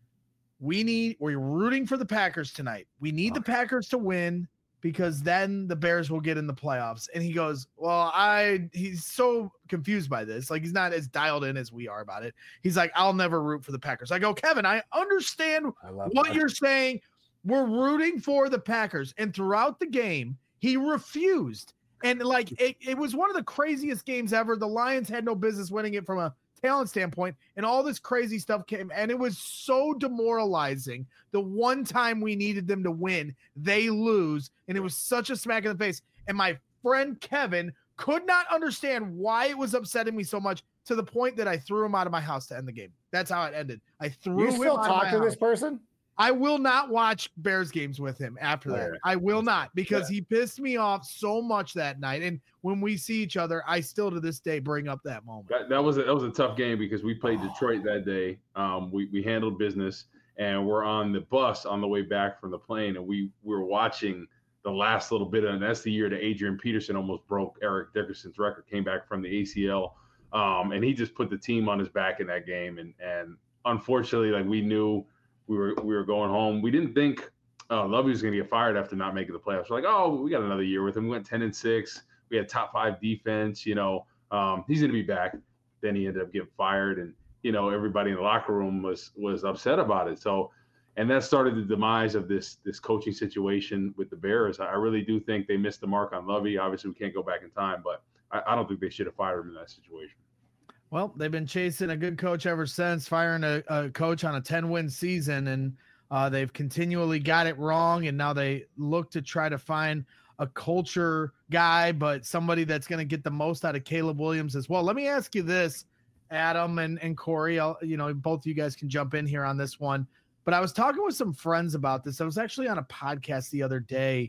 we're rooting for the Packers tonight. We need the Packers to win because then the Bears will get in the playoffs. And he goes, well, he's so confused by this. Like, he's not as dialed in as we are about it. He's like, I'll never root for the Packers. I go, Kevin, I understand what you're saying. We're rooting for the Packers. And throughout the game, he refused. And like, it was one of the craziest games ever. The Lions had no business winning it from a talent standpoint, and all this crazy stuff came, and it was so demoralizing. The one time we needed them to win, they lose, and it was such a smack in the face. And my friend Kevin could not understand why it was upsetting me so much, to the point that I threw him out of my house to end the game. That's how it ended. I threw him out of my house. You still talk to this person? I will not watch Bears games with him after that. I will not, because he pissed me off so much that night. And when we see each other, I still to this day bring up that moment. That was a tough game because we played Detroit that day. We handled business, and we're on the bus on the way back from the plane, and we were watching the last little bit of, and that's the year that Adrian Peterson almost broke Eric Dickerson's record, came back from the ACL, and he just put the team on his back in that game. And unfortunately, like, we knew we were going home. We didn't think Lovey was going to get fired after not making the playoffs. We're like, oh, we got another year with him. We went 10-6. We had top 5 defense. He's going to be back. Then he ended up getting fired, and everybody in the locker room was upset about it. So, and that started the demise of this coaching situation with the Bears. I really do think they missed the mark on Lovey. Obviously, we can't go back in time, but I don't think they should have fired him in that situation. Well, they've been chasing a good coach ever since, firing a coach on a 10-win season, and they've continually got it wrong, and now they look to try to find a culture guy, but somebody that's going to get the most out of Caleb Williams as well. Let me ask you this, Adam and Corey, both of you guys can jump in here on this one, but I was talking with some friends about this. I was actually on a podcast the other day,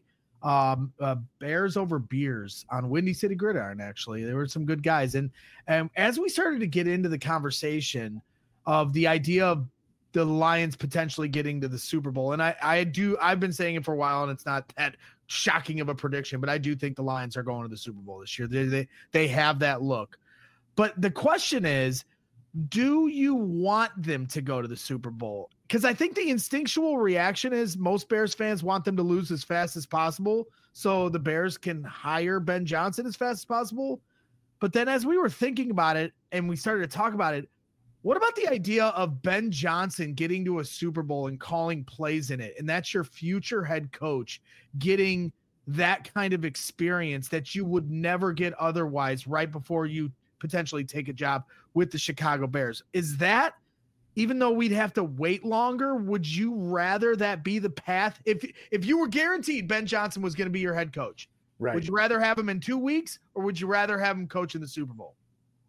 Bears Over Beers on Windy City Gridiron. Actually, there were some good guys, and as we started to get into the conversation of the idea of the Lions potentially getting to the Super Bowl, and I've been saying it for a while, and it's not that shocking of a prediction, but I do think the Lions are going to the Super Bowl this year. They have that look, but the question is, do you want them to go to the Super Bowl? Because I think the instinctual reaction is most Bears fans want them to lose as fast as possible so the Bears can hire Ben Johnson as fast as possible. But then as we were thinking about it and we started to talk about it, what about the idea of Ben Johnson getting to a Super Bowl and calling plays in it? And that's your future head coach getting that kind of experience that you would never get otherwise right before you potentially take a job with the Chicago Bears. Is that, even though we'd have to wait longer, would you rather that be the path? If you were guaranteed Ben Johnson was going to be your head coach, right, would you rather have him in 2 weeks, or would you rather have him coach in the Super Bowl?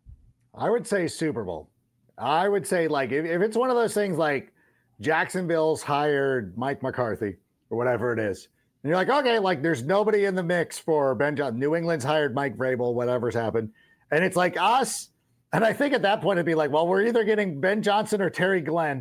I would say Super Bowl. I would say, like, if it's one of those things like Jacksonville's hired Mike McCarthy or whatever it is, and you're like, okay, like, there's nobody in the mix for Ben Johnson. New England's hired Mike Vrabel, whatever's happened. And it's like us. And I think at that point, it'd be like, well, we're either getting Ben Johnson or Terry Glenn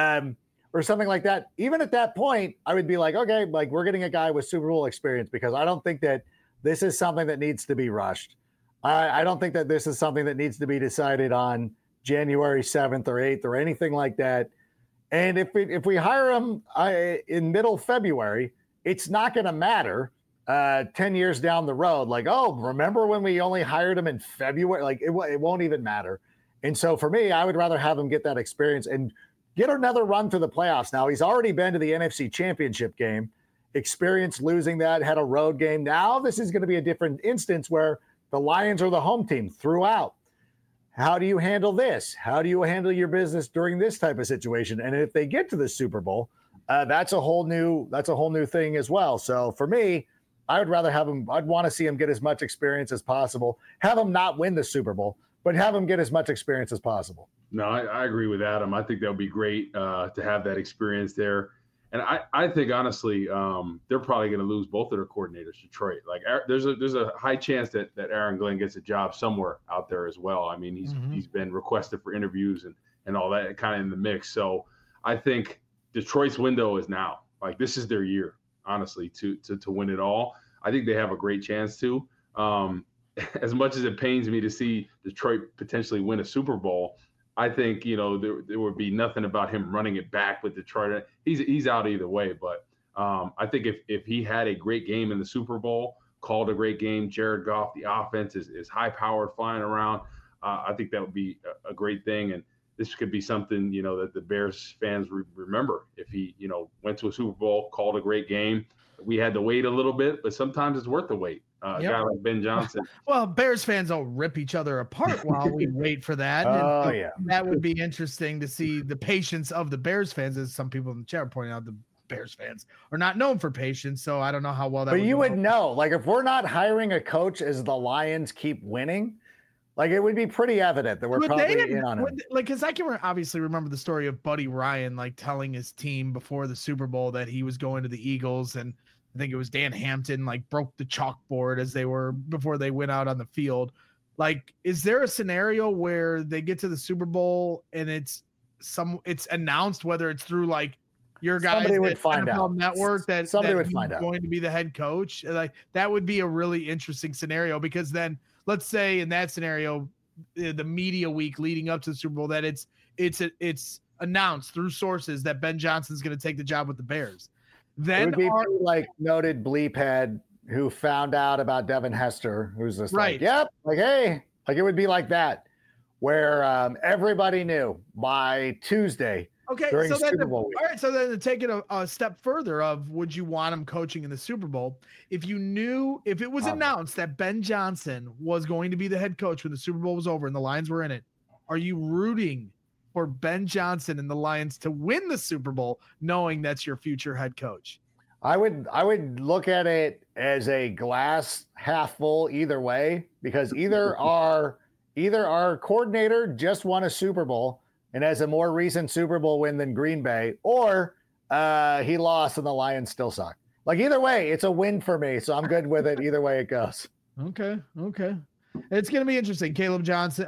or something like that. Even at that point, I would be like, okay, like, we're getting a guy with Super Bowl experience, because I don't think that this is something that needs to be rushed. I don't think that this is something that needs to be decided on January 7th or 8th or anything like that. And if we hire him in middle February, it's not going to matter 10 years down the road. Like, oh, remember when we only hired him in February? Like, it won't even matter. And so for me, I would rather have him get that experience and get another run through the playoffs. Now, he's already been to the NFC Championship game, experienced losing that, had a road game. Now this is going to be a different instance where the Lions are the home team throughout. How do you handle this? How do you handle your business during this type of situation? And if they get to the Super Bowl, that's a whole new thing as well. So for me, I would rather have him. I'd want to see him get as much experience as possible. Have him not win the Super Bowl, but have him get as much experience as possible. No, I agree with Adam. I think that would be great to have that experience there. And I think, honestly, they're probably going to lose both of their coordinators, Detroit. Like, there's a high chance that Aaron Glenn gets a job somewhere out there as well. I mean, he's been requested for interviews and all that kind of in the mix. So I think Detroit's window is now. Like, this is their year, honestly, to win it all. I think they have a great chance to. As much as it pains me to see Detroit potentially win a Super Bowl, I think, there would be nothing about him running it back with Detroit. He's out either way. But I think if he had a great game in the Super Bowl, called a great game, Jared Goff, the offense is high-powered, flying around, I think that would be a great thing. And this could be something, that the Bears fans remember. If he, went to a Super Bowl, called a great game. We had to wait a little bit, but sometimes it's worth the wait. A guy like Ben Johnson. Well, Bears fans will rip each other apart while we wait for that. That would be interesting to see the patience of the Bears fans, as some people in the chat are pointing out. The Bears fans are not known for patience, so I don't know how well that. But you would know, like, if we're not hiring a coach as the Lions keep winning, like, it would be pretty evident that we're probably in on it. Like, because I can obviously remember the story of Buddy Ryan, like, telling his team before the Super Bowl that he was going to the Eagles, and I think it was Dan Hampton, like, broke the chalkboard before they went out on the field. Like, is there a scenario where they get to the Super Bowl and it's announced, whether it's through, like, your guys somebody would find out network that somebody that would find out going to be the head coach? Like, that would be a really interesting scenario, because then let's say in that scenario, the media week leading up to the Super Bowl, that it's announced through sources that Ben Johnson's going to take the job with the Bears. Then it would be like noted bleep head who found out about Devin Hester, who's just right. Like, yep, like, hey, like, it would be like that, where everybody knew by Tuesday. Okay, during so Super Bowl week. All right, so then to take it a step further, would you want him coaching in the Super Bowl? If it was announced that Ben Johnson was going to be the head coach when the Super Bowl was over and the Lions were in it, are you rooting for Ben Johnson and the Lions to win the Super Bowl, knowing that's your future head coach? I would look at it as a glass half full either way, because either our coordinator just won a Super Bowl and has a more recent Super Bowl win than Green Bay, or he lost and the Lions still suck. Like, either way, it's a win for me, so I'm good with it either way it goes. Okay. It's going to be interesting. Caleb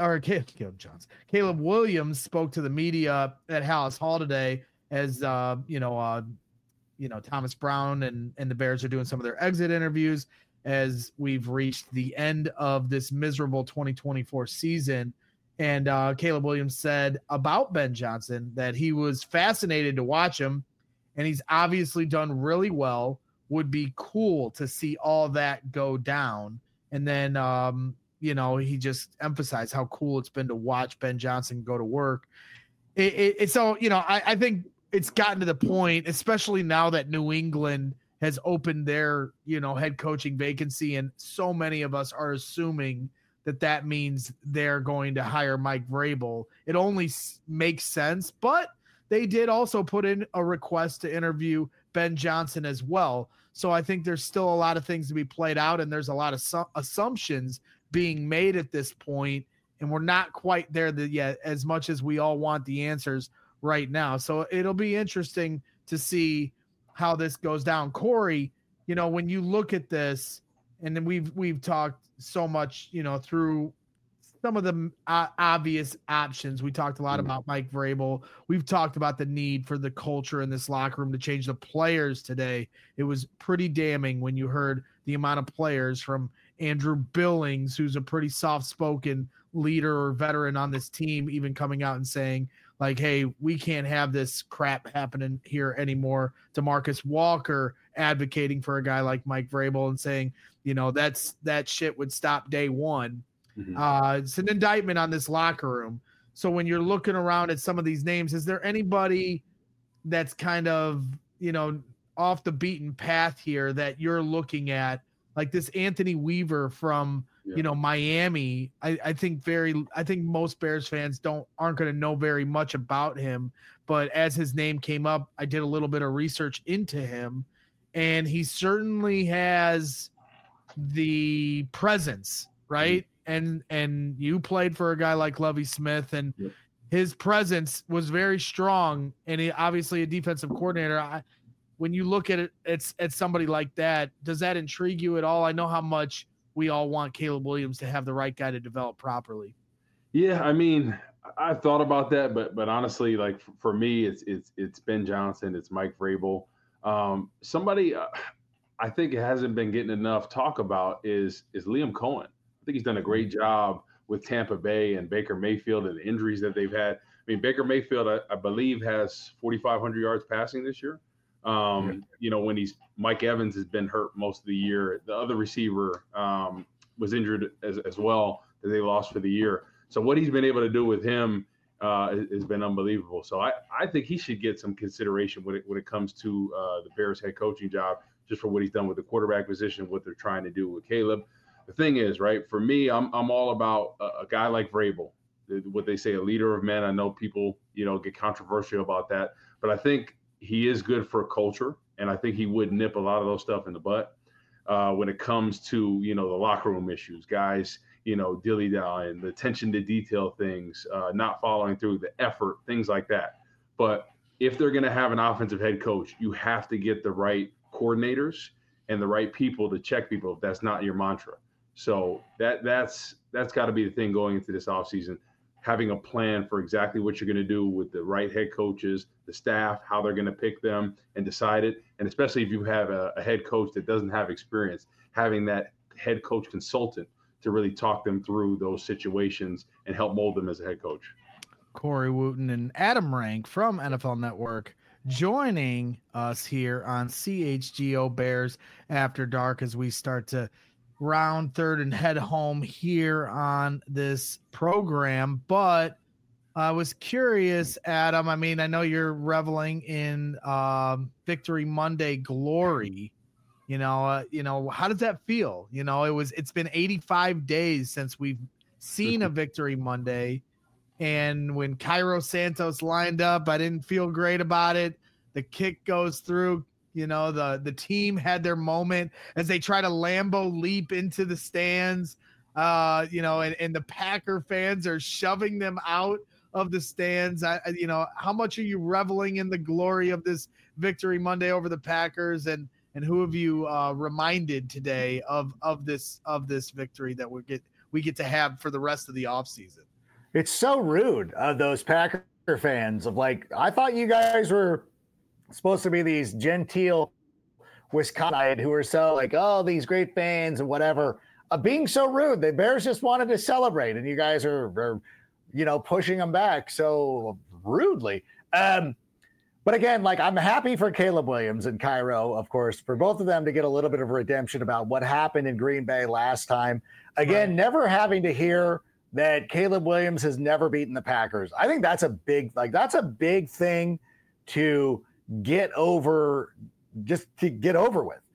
Williams spoke to the media at Hallis Hall today, as Thomas Brown and the Bears are doing some of their exit interviews as we've reached the end of this miserable 2024 season. And Caleb Williams said about Ben Johnson that he was fascinated to watch him, and he's obviously done really well. Would be cool to see all that go down. And then he just emphasized how cool it's been to watch Ben Johnson go to work. I think it's gotten to the point, especially now that New England has opened their, head coaching vacancy, and so many of us are assuming that means they're going to hire Mike Vrabel. It only makes sense, but they did also put in a request to interview Ben Johnson as well. So I think there's still a lot of things to be played out, and there's a lot of assumptions being made at this point, and we're not quite there yet, as much as we all want the answers right now. So it'll be interesting to see how this goes down. Corey, when you look at this, and then we've talked so much, through some of the obvious options. We talked a lot about Mike Vrabel. We've talked about the need for the culture in this locker room to change the players today. It was pretty damning when you heard the amount of players, from Andrew Billings, who's a pretty soft-spoken leader or veteran on this team, even coming out and saying, like, hey, we can't have this crap happening here anymore. DeMarcus Walker advocating for a guy like Mike Vrabel and saying, that shit would stop day one. Mm-hmm. It's an indictment on this locker room. So when you're looking around at some of these names, is there anybody that's kind of, off the beaten path here that you're looking at? Like this Anthony Weaver from, Miami. I think most Bears fans aren't going to know very much about him, but as his name came up, I did a little bit of research into him, and he certainly has the presence, right? And you played for a guy like Lovie Smith, and his presence was very strong, and he obviously a defensive coordinator. When you look at it, at somebody like that, does that intrigue you at all? I know how much we all want Caleb Williams to have the right guy to develop properly. Yeah, I mean, I thought about that, but honestly, like for me, it's Ben Johnson, it's Mike Vrabel. Somebody I think it hasn't been getting enough talk about is Liam Cohen. I think he's done a great job with Tampa Bay and Baker Mayfield and the injuries that they've had. I mean, Baker Mayfield, I believe, has 4,500 yards passing this year. When Mike Evans has been hurt most of the year. The other receiver was injured as well that they lost for the year. So what he's been able to do with him has been unbelievable. So I think he should get some consideration when it comes to the Bears head coaching job, just for what he's done with the quarterback position, what they're trying to do with Caleb. The thing is, right, for me, I'm all about a guy like Vrabel, what they say, a leader of men. I know people, get controversial about that, but I think he is good for culture, and I think he would nip a lot of those stuff in the butt when it comes to, the locker room issues, guys, dilly-dallying, the attention to detail things, not following through, the effort, things like that. But if they're going to have an offensive head coach, you have to get the right coordinators and the right people to check people if that's not your mantra. So that's got to be the thing going into this offseason, having a plan for exactly what you're going to do with the right head coaches, the staff, how they're going to pick them and decide it. And especially if you have a head coach that doesn't have experience, having that head coach consultant to really talk them through those situations and help mold them as a head coach. Corey Wooten and Adam Rank from NFL Network joining us here on CHGO Bears After Dark as we start to round third and head home here on this program. But I was curious, Adam, I mean, I know you're reveling in Victory Monday glory. How does that feel? It's been 85 days since we've seen a Victory Monday. And when Cairo Santos lined up, I didn't feel great about it. The kick goes through. The team had their moment as they try to Lambo leap into the stands, and the Packer fans are shoving them out of the stands. How much are you reveling in the glory of this Victory Monday over the Packers, and who have you reminded today of this victory that we get to have for the rest of the offseason? It's so rude of those Packer fans of I thought you guys were supposed to be these genteel Wisconsin who are so these great fans and whatever, being so rude. The Bears just wanted to celebrate and you guys are pushing them back so rudely. But again, I'm happy for Caleb Williams and Cairo, of course, for both of them to get a little bit of redemption about what happened in Green Bay last time. Again, right. Never having to hear that Caleb Williams has never beaten the Packers. I think that's a big thing to get over, just to get over with.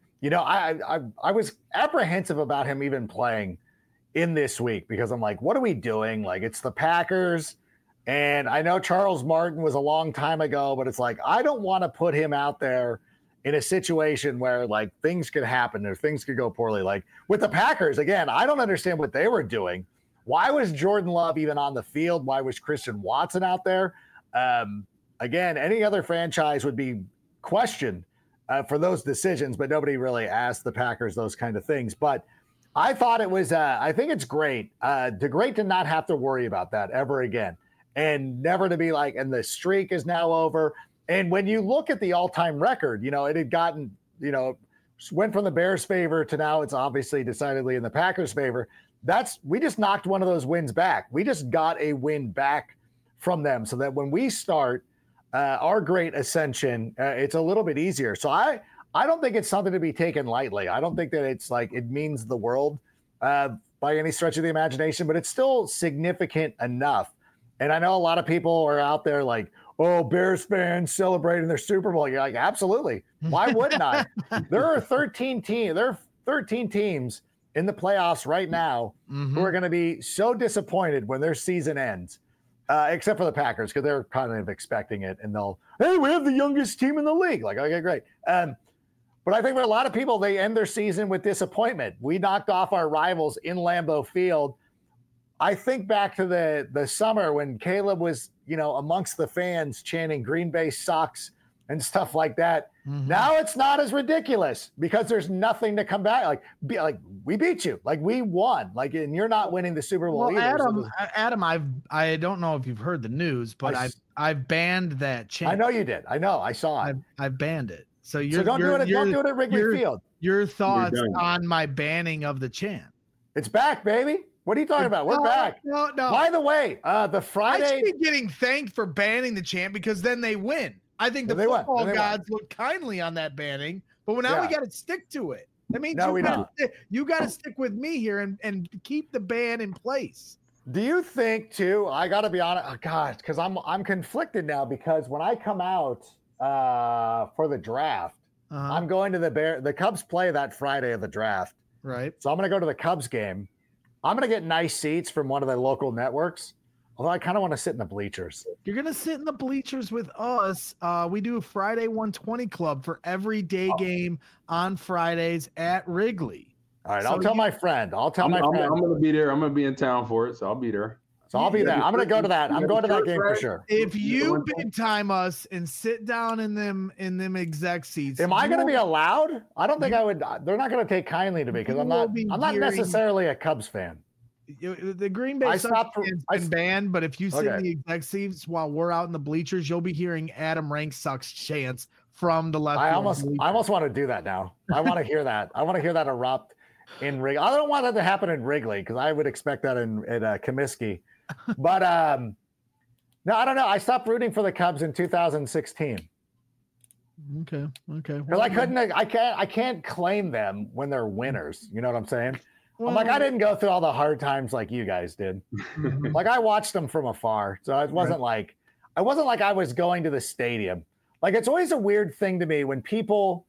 I was apprehensive about him even playing in this week because I'm like, what are we doing? It's the Packers. And I know Charles Martin was a long time ago, but it's I don't want to put him out there in a situation where things could happen or things could go poorly. With the Packers, again, I don't understand what they were doing. Why was Jordan Love even on the field? Why was Christian Watson out there? Again, any other franchise would be questioned for those decisions, but nobody really asked the Packers those kind of things. But I thought it was, I think it's great to not have to worry about that ever again and never to be and the streak is now over. And when you look at the all-time record, it had gotten, went from the Bears' favor to now it's obviously decidedly in the Packers' favor. We just knocked one of those wins back. We just got a win back from them so that when we start our great ascension, it's a little bit easier. So I don't think it's something to be taken lightly. I don't think that it's it means the world by any stretch of the imagination, but it's still significant enough. And I know a lot of people are out there like, oh, Bears fans celebrating their Super Bowl. You're like, absolutely. Why wouldn't I? There are 13 teams in the playoffs right now who are going to be so disappointed when their season ends, except for the Packers, because they're kind of expecting it. And hey, we have the youngest team in the league. Like, okay, great. But I think for a lot of people, they end their season with disappointment. We knocked off our rivals in Lambeau Field. I think back to the summer when Caleb was, amongst the fans chanting Green Bay sucks and stuff like that. Now it's not as ridiculous because there's nothing to come back. Like we beat you, like we won, like, and you're not winning the Super Bowl either. Adam, I don't know if you've heard the news, but I've banned that chant. I know you did. I know. I saw it. I've banned it. So don't do it at Wrigley Field. Your thoughts on my banning of the chant? It's back, baby. What are you talking about? We're back. No. By the way, the Friday. I should be getting thanked for banning the chant because then they win. I think the football gods look kindly on that banning, but now we got to stick to it. That means you got to stick with me here and keep the ban in place. Do you think too? I got to be honest, because I'm conflicted now because when I come out for the draft, I'm going to the Cubs play that Friday of the draft, right? So I'm going to go to the Cubs game. I'm going to get nice seats from one of the local networks. Although I kind of want to sit in the bleachers. You're going to sit in the bleachers with us. We do a Friday 120 club for every day game on Fridays at Wrigley. All right. I'll tell my friend. I'm going to be there. I'm going to be in town for it. So I'll be there. So I'll be there. I'm going to go to that. I'm going to that game for sure. If you big time us and sit down in them exec seats. Am I going to be allowed? I don't think I would. They're not going to take kindly to me because I'm not necessarily a Cubs fan. The Green Bay Sox has been banned, but if you sit in the exec seats while we're out in the bleachers, you'll be hearing Adam Rank Sucks chants from the left. I almost want to do that now. I want to hear that. I want to hear that erupt in Wrigley. I don't want that to happen in Wrigley because I would expect that in Comiskey. But no, I don't know. I stopped rooting for the Cubs in 2016. Okay. Because I can't claim them when they're winners. You know what I'm saying? Well, I didn't go through all the hard times like you guys did. Like I watched them from afar, so it wasn't like I was going to the stadium. Like it's always a weird thing to me when people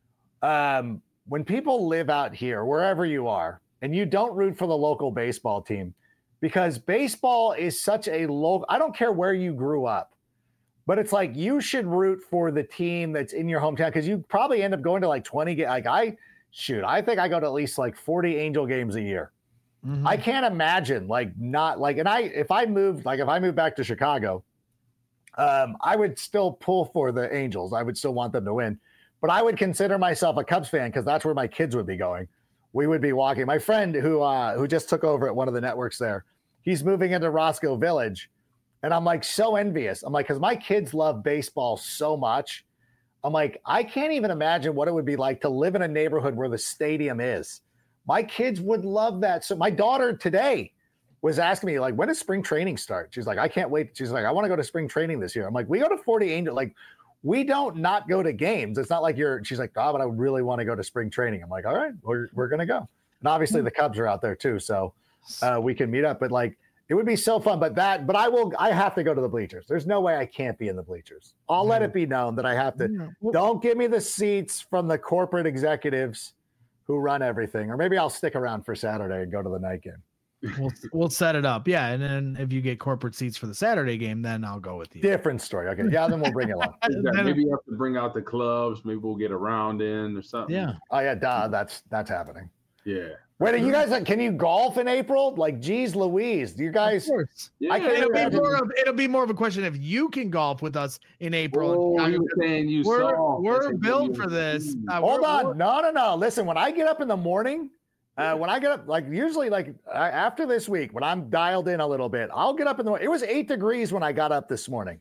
live out here, wherever you are, and you don't root for the local baseball team, because baseball is such a local. I don't care where you grew up, but it's like you should root for the team that's in your hometown because you probably end up going to like 20 games. Like I think I go to at least like 40 Angel games a year. I can't imagine if I moved back to Chicago, I would still pull for the Angels. I would still want them to win, but I would consider myself a Cubs fan because that's where my kids would be going. We would be walking. My friend who just took over at one of the networks there, he's moving into Roscoe Village, and I'm like so envious. I'm like, because my kids love baseball so much. I'm like, I can't even imagine what it would be like to live in a neighborhood where the stadium is. My kids would love that. So my daughter today was asking me, like, when does spring training start? She's like, I can't wait. She's like, I want to go to spring training this year. I'm like, we go to 40 Angel. Like, we don't not go to games. It's not like she's like, but I really want to go to spring training. I'm like, all right, we're going to go. And obviously the Cubs are out there too. So we can meet up, but like, it would be so fun, but I have to go to the bleachers. There's no way I can't be in the bleachers. I'll let it be known that I have to. Don't give me the seats from the corporate executives who run everything. Or maybe I'll stick around for Saturday and go to the night game. We'll set it up. Yeah. And then if you get corporate seats for the Saturday game, then I'll go with you. Different story. Okay. Yeah, then we'll bring it along. Maybe you have to bring out the clubs. Maybe we'll get a round in or something. Yeah. Oh yeah, that's happening. Yeah. Wait, you guys can you golf in April? Like, geez Louise, do you guys? Yeah. It'll be more of a question if you can golf with us in April. We're built for this. Hold on, no. Listen, when I get up in the morning, usually after this week, when I'm dialed in a little bit, I'll get up in the morning. It was 8 degrees when I got up this morning.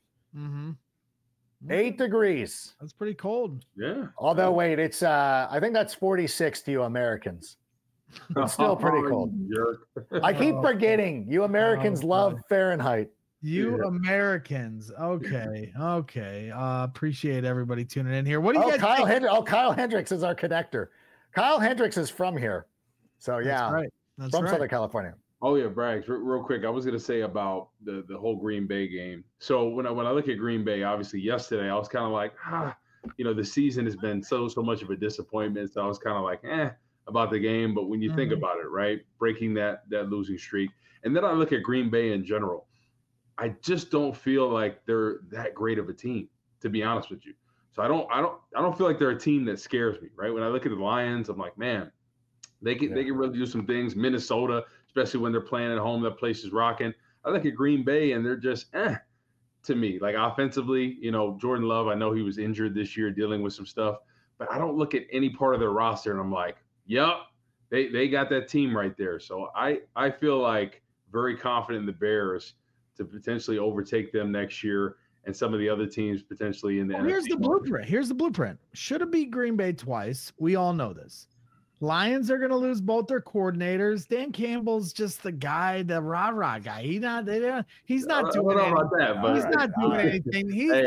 8 degrees. That's pretty cold. Yeah. Although, wait, it's I think that's 46 to you Americans. It's still pretty cold. I keep forgetting you Americans love Fahrenheit. Americans. Okay. Appreciate everybody tuning in here. What do you guys think? Kyle Hendricks is our connector. Kyle Hendricks is from here. So yeah. That's right. From Southern California. Oh yeah, Braggs. Real quick, I was gonna say about the whole Green Bay game. So when I look at Green Bay, obviously yesterday I was kind of like, the season has been so much of a disappointment. So I was kind of like, about the game. But when you think about it, right, breaking that losing streak, and then I look at Green Bay in general, I just don't feel like they're that great of a team, to be honest with you. So I don't feel like they're a team that scares me, right? When I look at the Lions, I'm like, man, they can really do some things. Minnesota, especially when they're playing at home, that place is rocking. I look at Green Bay and they're just to me. Like offensively, Jordan Love, I know he was injured this year dealing with some stuff, but I don't look at any part of their roster and I'm like, yep, they got that team right there. So I feel like very confident in the Bears to potentially overtake them next year and some of the other teams potentially in the NFC. Here's the blueprint. Should have beat Green Bay twice. We all know this. Lions are going to lose both their coordinators. Dan Campbell's just the guy, the rah-rah guy. He's not doing anything. He's not doing anything.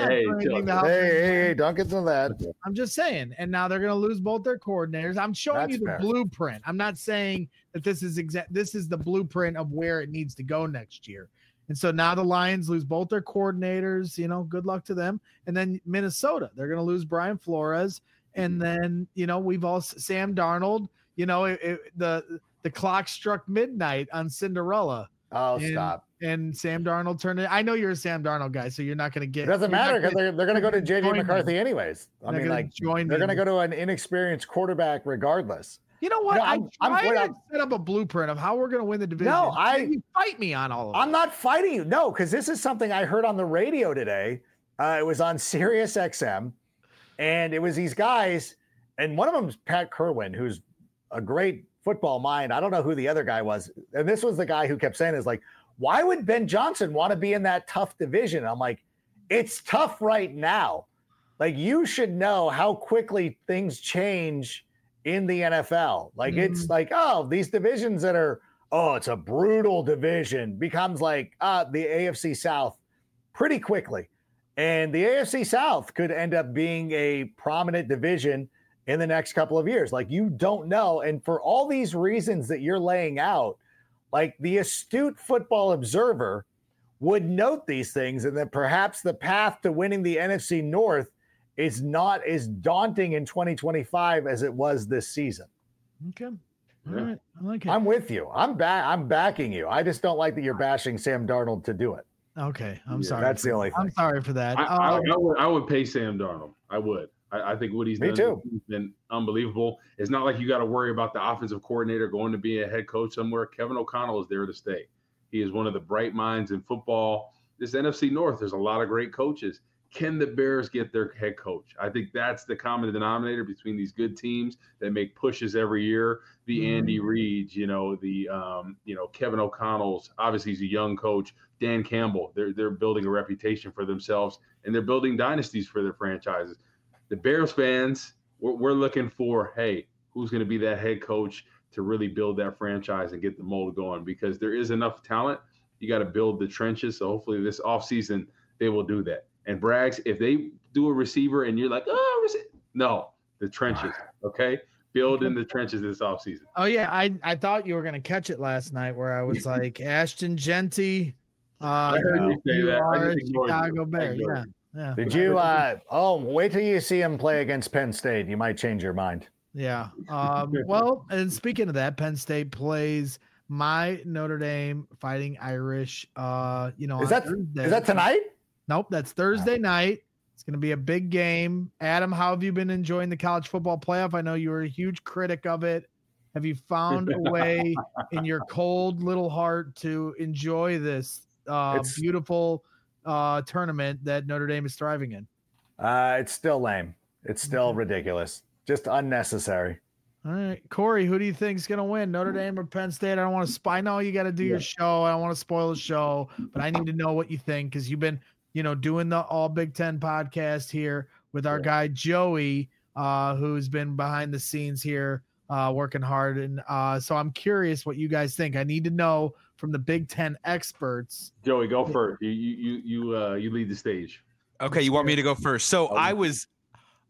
Hey, don't get to that. I'm just saying. And now they're going to lose both their coordinators. I'm showing you the blueprint. I'm not saying that this is the blueprint of where it needs to go next year. And so now the Lions lose both their coordinators. Good luck to them. And then Minnesota, they're going to lose Brian Flores. And then, we've all Sam Darnold, the clock struck midnight on Cinderella. Oh, stop. And Sam Darnold turned it. I know you're a Sam Darnold guy, so you're not going to get. It doesn't matter because they're going to go to J.J. McCarthy anyways. I mean, they're going to go to an inexperienced quarterback regardless. You know what? I'm trying to set up a blueprint of how we're going to win the division. No, you fight me on all of it. I'm not fighting you. No, because this is something I heard on the radio today. It was on Sirius XM. And it was these guys, and one of them is Pat Kerwin, who's a great football mind. I don't know who the other guy was. And this was the guy who kept saying is like, why would Ben Johnson want to be in that tough division? And I'm like, it's tough right now. Like, you should know how quickly things change in the NFL. Like, it's like, these divisions that are, it's a brutal division becomes like the AFC South pretty quickly. And the AFC South could end up being a prominent division in the next couple of years. Like, you don't know. And for all these reasons that you're laying out, like, the astute football observer would note these things, and that perhaps the path to winning the NFC North is not as daunting in 2025 as it was this season. Okay. All right. I like it. I'm with you. I'm backing you. I just don't like that you're bashing Sam Darnold to do it. Okay, I'm sorry. That's the only thing. I'm sorry for that. I would pay Sam Darnold. I would. I think what he's done has been unbelievable. It's not like you got to worry about the offensive coordinator going to be a head coach somewhere. Kevin O'Connell is there to stay. He is one of the bright minds in football. This NFC North, there's a lot of great coaches. Can the Bears get their head coach? I think that's the common denominator between these good teams that make pushes every year. The Andy Reids, Kevin O'Connell's. Obviously, he's a young coach. Dan Campbell. They're building a reputation for themselves, and they're building dynasties for their franchises. The Bears fans, we're looking for, hey, who's going to be that head coach to really build that franchise and get the mold going? Because there is enough talent. You got to build the trenches. So hopefully this offseason they will do that. And Braggs, if they do a receiver and you're like, no, the trenches, okay? Build in the trenches this offseason. Oh, yeah. I thought you were going to catch it last night where I was like, Ashton Genty. I heard you say that. I just Chicago Bears. Yeah. Did you wait till you see him play against Penn State. You might change your mind. Yeah. Well, and speaking of that, Penn State plays my Notre Dame Fighting Irish. Is that tonight? Nope, that's Thursday night. It's going to be a big game. Adam, how have you been enjoying the college football playoff? I know you were a huge critic of it. Have you found a way in your cold little heart to enjoy this beautiful tournament that Notre Dame is thriving in? It's still lame. It's still ridiculous. Just unnecessary. All right. Corey, who do you think is going to win, Notre Dame or Penn State? I don't want to spy. I know you got to do your show. I don't want to spoil the show, but I need to know what you think because you've been doing the All Big Ten podcast here with our guy Joey, who's been behind the scenes here working hard. And so I'm curious what you guys think. I need to know from the Big Ten experts. Joey, go first. You lead the stage. Okay, you want me to go first? So I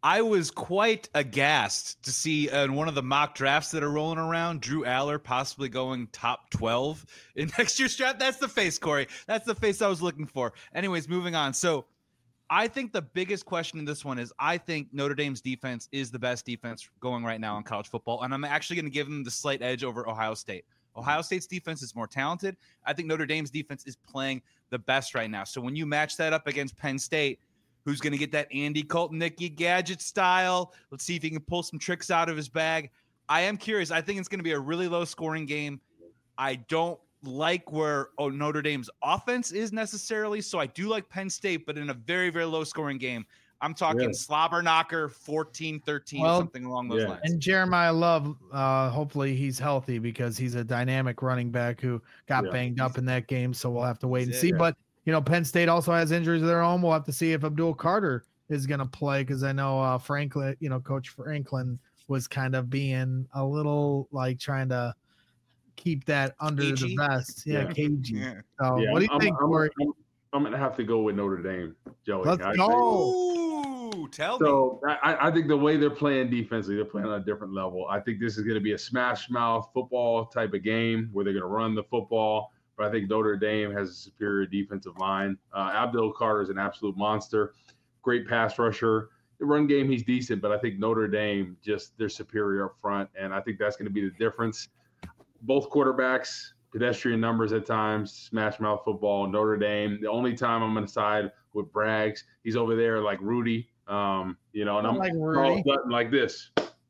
I was quite aghast to see in one of the mock drafts that are rolling around, Drew Aller possibly going top 12 in next year's draft. That's the face, Corey. That's the face I was looking for. Anyways, moving on. So I think the biggest question in this one is I think Notre Dame's defense is the best defense going right now in college football, and I'm actually going to give them the slight edge over Ohio State. Ohio State's defense is more talented. I think Notre Dame's defense is playing the best right now. So when you match that up against Penn State, who's going to get that Andy Colton, Nicky Gadget style? Let's see if he can pull some tricks out of his bag. I am curious. I think it's going to be a really low-scoring game. I don't like where Notre Dame's offense is necessarily, so I do like Penn State, but in a very, very low-scoring game. I'm talking slobber knocker, 14-13, something along those lines. And Jeremiah Love, hopefully he's healthy because he's a dynamic running back who got banged up in that game, so we'll have to wait and see. But Penn State also has injuries of their own. We'll have to see if Abdul Carter is going to play because I know Franklin, Coach Franklin was kind of being a little like trying to keep that under the vest. Yeah, cagey. Yeah. So what do you think, Corey? I'm going to have to go with Notre Dame, Joey. Let's go. Ooh, tell me. So I think the way they're playing defensively, they're playing on a different level. I think this is going to be a smash mouth football type of game where they're going to run the football. But I think Notre Dame has a superior defensive line. Abdul Carter is an absolute monster, great pass rusher. The run game, he's decent, but I think Notre Dame they're superior up front, and I think that's going to be the difference. Both quarterbacks, pedestrian numbers at times, smash mouth football. Notre Dame. The only time I'm going to side with Braggs, he's over there like Rudy, and I'm like Rudy. Like this.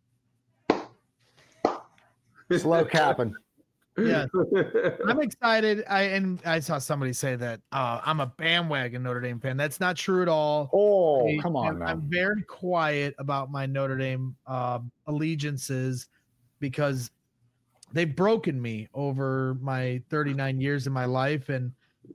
Slow capping. Yeah, I'm excited. I saw somebody say that I'm a bandwagon Notre Dame fan. That's not true at all. Oh, come on, man. I'm very quiet about my Notre Dame allegiances because they've broken me over my 39 years in my life. And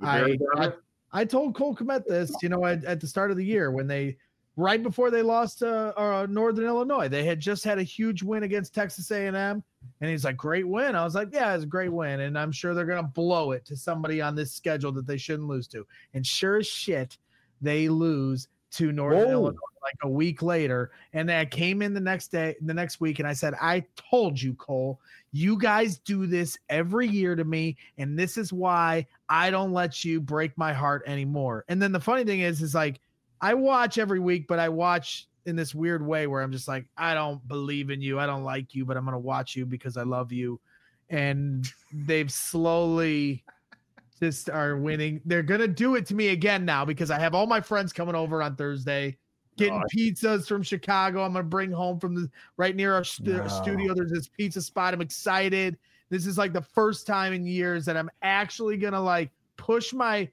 I told Cole Kmet this, at the start of the year when right before they lost to Northern Illinois, they had just had a huge win against Texas A&M. And he's like, great win. I was like, yeah, it's a great win. And I'm sure they're going to blow it to somebody on this schedule that they shouldn't lose to. And sure as shit, they lose to Northern Illinois like a week later. And I came in the next week, and I said, I told you, Cole, you guys do this every year to me. And this is why I don't let you break my heart anymore. And then the funny thing is like, I watch every week, but I watch in this weird way where I'm just like, I don't believe in you. I don't like you, but I'm going to watch you because I love you. And they've slowly just are winning. They're going to do it to me again now because I have all my friends coming over on Thursday, getting pizzas from Chicago. I'm going to bring home from right near our studio. There's this pizza spot. I'm excited. This is like the first time in years that I'm actually going to like push my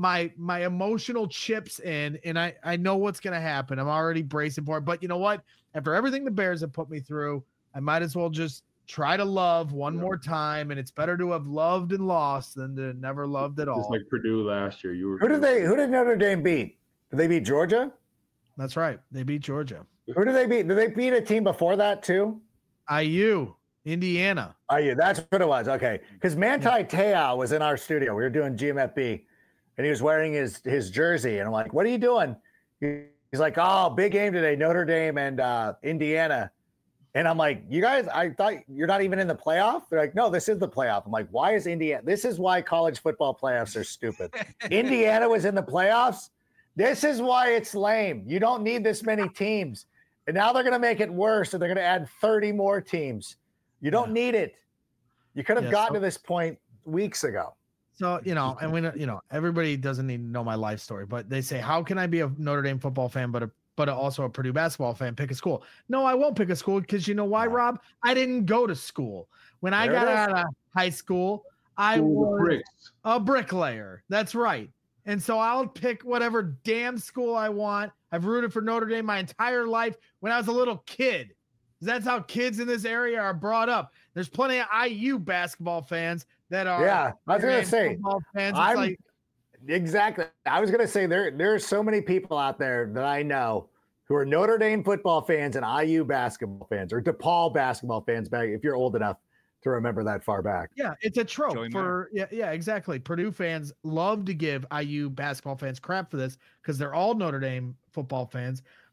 emotional chips in, and I know what's going to happen. I'm already bracing for it. But you know what? After everything the Bears have put me through, I might as well just try to love one more time. And it's better to have loved and lost than to never loved at all. Just like Purdue last year. Who did Notre Dame beat? Did they beat Georgia? That's right. They beat Georgia. Who did they beat? Did they beat a team before that too? IU, Indiana. IU, that's what it was. Okay. Because Manti Te'o was in our studio. We were doing GMFB. And he was wearing his jersey. And I'm like, what are you doing? He's like, oh, big game today, Notre Dame and Indiana. And I'm like, you guys, I thought you're not even in the playoff? They're like, no, this is the playoff. I'm like, why is Indiana? This is why college football playoffs are stupid. Indiana was in the playoffs. This is why it's lame. You don't need this many teams. And now they're going to make it worse. And they're going to add 30 more teams. You don't need it. You could have gotten to this point weeks ago. So, and we everybody doesn't need to know my life story, but they say, how can I be a Notre Dame football fan, but also a Purdue basketball fan? Pick a school. No, I won't pick a school because you know why, Rob? I didn't go to school. When I got out of high school, I was a bricklayer. That's right. And so I'll pick whatever damn school I want. I've rooted for Notre Dame my entire life when I was a little kid. That's how kids in this area are brought up. There's plenty of IU basketball fans that are. Yeah, I was going to say. Fans. Exactly. I was going to say there are so many people out there that I know who are Notre Dame football fans and IU basketball fans or DePaul basketball fans back if you're old enough to remember that far back. Yeah, it's a trope for exactly. Purdue fans love to give IU basketball fans crap for this because they're all Notre Dame football fans.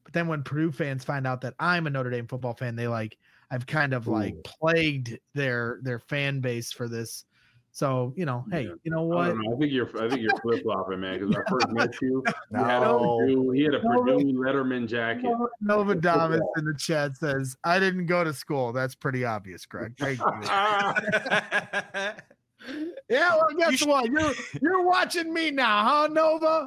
But then when Purdue fans find out that I'm a Notre Dame football fan, I've kind of plagued their fan base for this. So, hey, you know what? I don't know. I think you're flip flopping, man. Because when I first met you, he had a Purdue Letterman jacket. Novadamas in the chat says, "I didn't go to school." That's pretty obvious, Greg. Thank you. Yeah, well, guess what? You're watching me now, huh, Nova?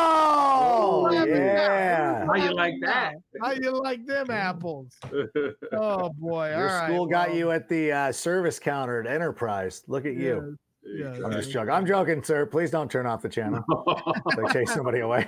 Oh, yeah. How you like that? How you like them apples? Oh boy! Your school got you at the service counter at Enterprise. Look at you. Yeah. I'm just joking. I'm joking, sir. Please don't turn off the channel. They chase somebody away.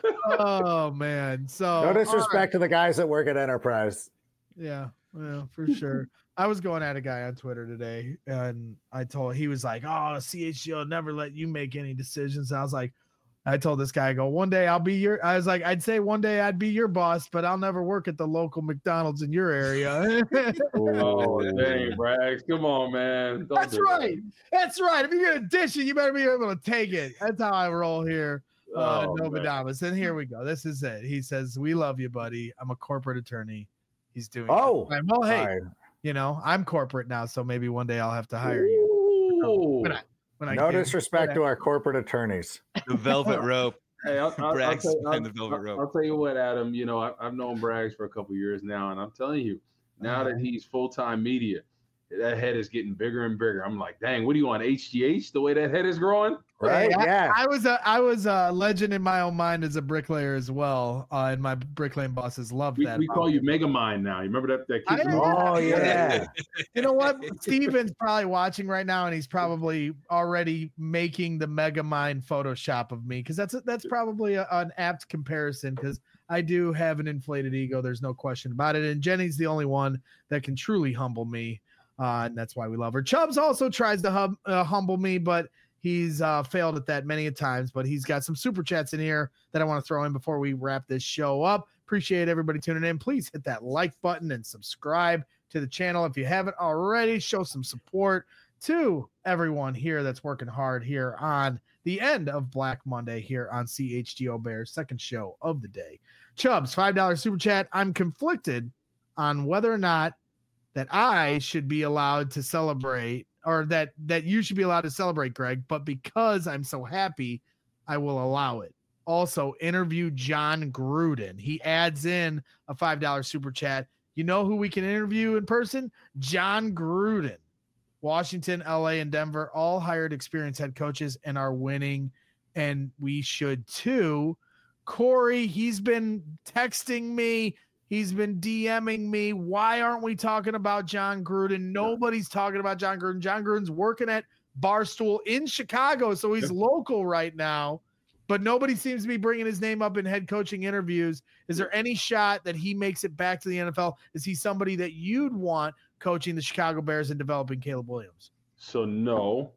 Oh man! So no disrespect to the guys that work at Enterprise. Yeah, well, for sure. I was going at a guy on Twitter today, and he was like, "Oh, CHGO will never let you make any decisions." And I told this guy, one day I'd say one day I'd be your boss, but I'll never work at the local McDonald's in your area. Oh, dang, Braggs. Come on, man. That's right. That's right. If you're going to dish it, you better be able to take it. That's how I roll here. Novadamas. And here we go. This is it. He says, "We love you, buddy. I'm a corporate attorney." He's doing well, hey, I'm corporate now, so maybe one day I'll have to hire you. No disrespect to our corporate attorneys. The velvet rope. Hey, I'll tell you what, Adam. I've known Braggs for a couple of years now, and I'm telling you, now that he's full-time media, that head is getting bigger and bigger. I'm like, dang, what are you on, HGH? The way that head is growing? Right? Yeah. I was a legend in my own mind as a bricklayer as well, and my bricklaying bosses loved that. We call you Megamind now. You remember that kid? Oh yeah. You know what? Steven's probably watching right now, and he's probably already making the Megamind Photoshop of me, because that's probably an apt comparison, because I do have an inflated ego. There's no question about it, and Jenny's the only one that can truly humble me, and that's why we love her. Chubbs also tries to humble me, but he's failed at that many a times. But he's got some super chats in here that I want to throw in before we wrap this show up. Appreciate everybody tuning in. Please hit that like button and subscribe to the channel if you haven't already. Show some support to everyone here that's working hard here on the end of Black Monday here on CHGO Bears, second show of the day. Chubbs, $5 super chat. I'm conflicted on whether or not that I should be allowed to celebrate, or that you should be allowed to celebrate, Greg, but because I'm so happy, I will allow it. Also, interview John Gruden. He adds in a $5 super chat. You know who we can interview in person? John Gruden. Washington, LA, and Denver all hired experienced head coaches and are winning, and we should too. Corey, he's been texting me. He's been DMing me. Why aren't we talking about John Gruden? Nobody's talking about John Gruden. John Gruden's working at Barstool in Chicago, so he's local right now, but nobody seems to be bringing his name up in head coaching interviews. Is there any shot that he makes it back to the NFL? Is he somebody that you'd want coaching the Chicago Bears and developing Caleb Williams? So no,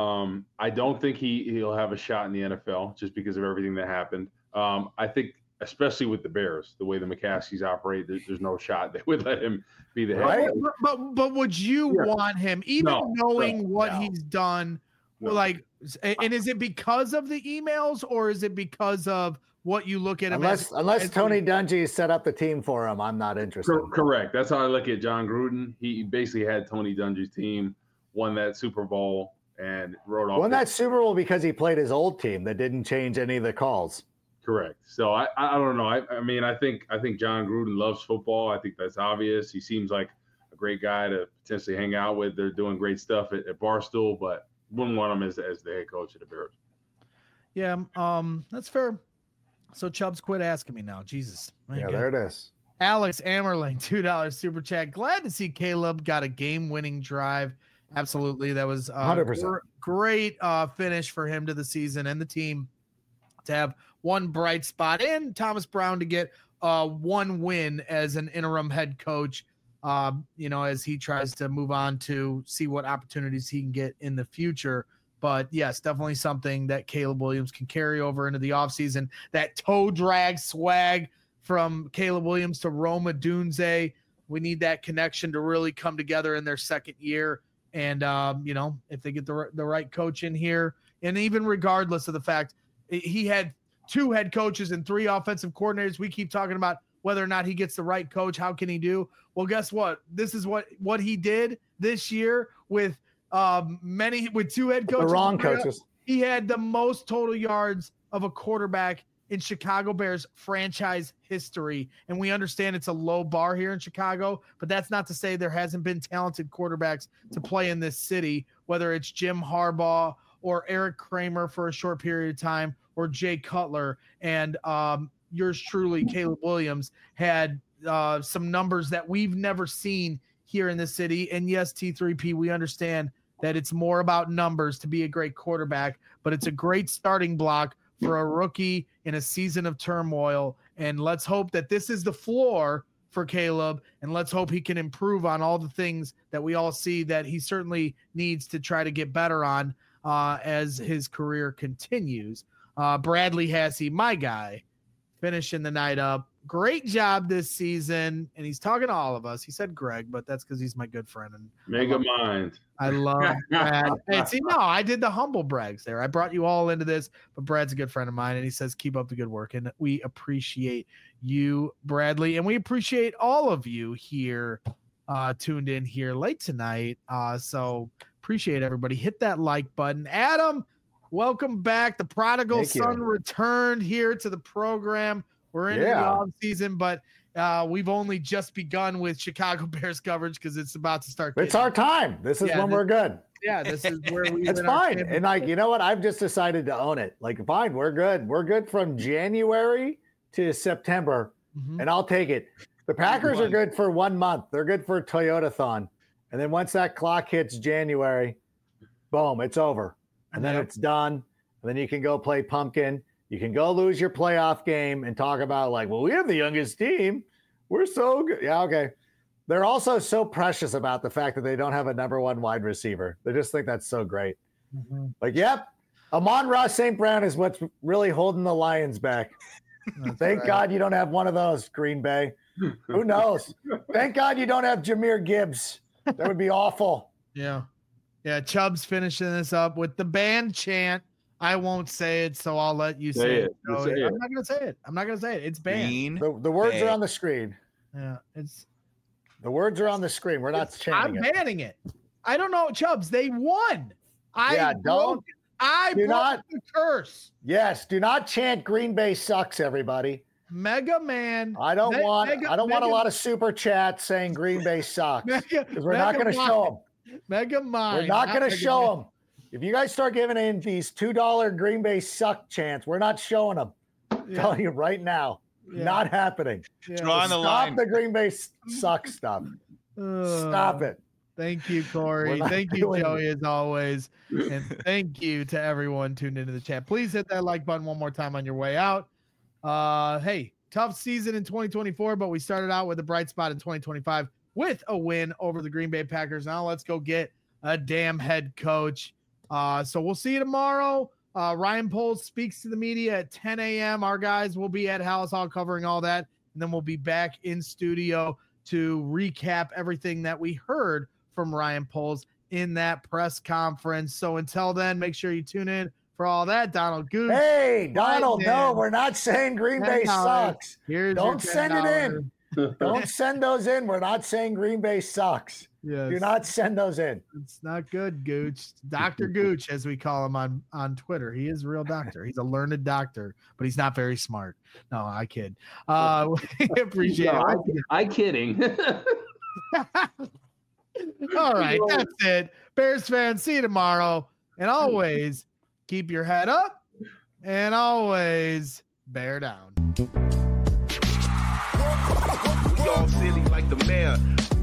I don't think he'll have a shot in the NFL just because of everything that happened. I think, especially with the Bears, the way the McCaskies operate, there's no shot they would let him be the head coach. But would you want him, even knowing what he's done? Like, and is it because of the emails, or is it because of what you look at him? Unless Tony Dungy set up the team for him, I'm not interested. Correct. That's how I look at John Gruden. He basically had Tony Dungy's team, won that Super Bowl, and wrote off. Won that Super Bowl because he played his old team that didn't change any of the calls. Correct. So I don't know. I mean, I think John Gruden loves football. I think that's obvious. He seems like a great guy to potentially hang out with. They're doing great stuff at Barstool, but wouldn't want him as the head coach of the Bears. Yeah, that's fair. So Chubbs, quit asking me now. Jesus. There it is. Alex Ammerling, $2 super chat. Glad to see Caleb got a game-winning drive. Absolutely. That was 100%. Great finish for him to the season and the team to have one bright spot, and Thomas Brown to get one win as an interim head coach, as he tries to move on to see what opportunities he can get in the future. But yes, definitely something that Caleb Williams can carry over into the offseason. That toe drag swag from Caleb Williams to Rome Odunze. We need that connection to really come together in their second year. And, if they get the right coach in here, and even regardless of the fact he had 2 head coaches and 3 offensive coordinators, we keep talking about whether or not he gets the right coach. How can he do? Well, guess what? This is what he did this year with two head coaches. The wrong coaches. He had the most total yards of a quarterback in Chicago Bears franchise history. And we understand it's a low bar here in Chicago, but that's not to say there hasn't been talented quarterbacks to play in this city, whether it's Jim Harbaugh or Eric Kramer for a short period of time, or Jay Cutler. And yours truly, Caleb Williams, had some numbers that we've never seen here in the city. And yes, T3P, we understand that it's more about numbers to be a great quarterback, but it's a great starting block for a rookie in a season of turmoil. And let's hope that this is the floor for Caleb, and let's hope he can improve on all the things that we all see that he certainly needs to try to get better on as his career continues. Bradley Hassey, my guy, finishing the night up. Great job this season. And he's talking to all of us. He said Greg, but that's because he's my good friend. And Mega Mind. I love Brad. Hey, see, no, I did the humble brags there. I brought you all into this, but Brad's a good friend of mine, and he says, keep up the good work. And we appreciate you, Bradley. And we appreciate all of you here tuned in here late tonight. So appreciate everybody. Hit that like button. Adam, welcome back. The prodigal son returned here to the program. We're in the off season, but we've only just begun with Chicago Bears coverage because it's about to start. It's our time. This is when we're good. Yeah, this is where we. It's fine. And like, you know what? I've just decided to own it. Like, fine, we're good. We're good from January to September, and I'll take it. The Packers are good for 1 month. They're good for Toyota-thon. And then once that clock hits January, boom, it's over. And then it's done. And then you can go play pumpkin. You can go lose your playoff game and talk about like, well, we have the youngest team. We're so good. Yeah, okay. They're also so precious about the fact that they don't have a number one wide receiver. They just think that's so great. Like, yep, Amon-Ra St. Brown is what's really holding the Lions back. Thank God you don't have one of those, Green Bay. Who knows? Thank God you don't have Jahmyr Gibbs. That would be awful. Yeah. Yeah, Chubb's finishing this up with the band chant. I won't say it, so I'll let you say it. I'm not going to say it. I'm not going to say it. It's banned. The words are on the screen. Yeah, the words are on the screen. We're not chanting it. I'm banning it. I don't know, Chubbs. They won. I broke the curse. Yes, do not chant Green Bay sucks, everybody. Mega Man. I don't want a lot of super chats saying Green Bay sucks because we're not going to show them. Mega Mind. We're not going to show them. If you guys start giving in these $2 Green Bay suck chants, we're not showing them. I'm telling you right now, not happening. Drawing the line. Stop the Green Bay suck stuff. Stop it. Thank you, Corey. Thank you, Joey, as always. And thank you to everyone tuned into the chat. Please hit that like button one more time on your way out. Hey, tough season in 2024, but we started out with a bright spot in 2025 with a win over the Green Bay Packers. Now let's go get a damn head coach. So we'll see you tomorrow. Ryan Poles speaks to the media at 10 a.m. Our guys will be at Hallis Hall covering all that. And then we'll be back in studio to recap everything that we heard from Ryan Poles in that press conference. So until then, make sure you tune in for all that. Donald Gooch. Hey, Donald, no, we're not saying Green Bay sucks. Don't send it in. Don't send those in. We're not saying Green Bay sucks. Yes. Do not send those in. It's not good, Gooch. Dr. Gooch, as we call him on Twitter. He is a real doctor. He's a learned doctor, but he's not very smart. No, I kid. We appreciate it. I kidding. All right, that's it. Bears fans, see you tomorrow. And always keep your head up and always bear down. We all silly like the mayor.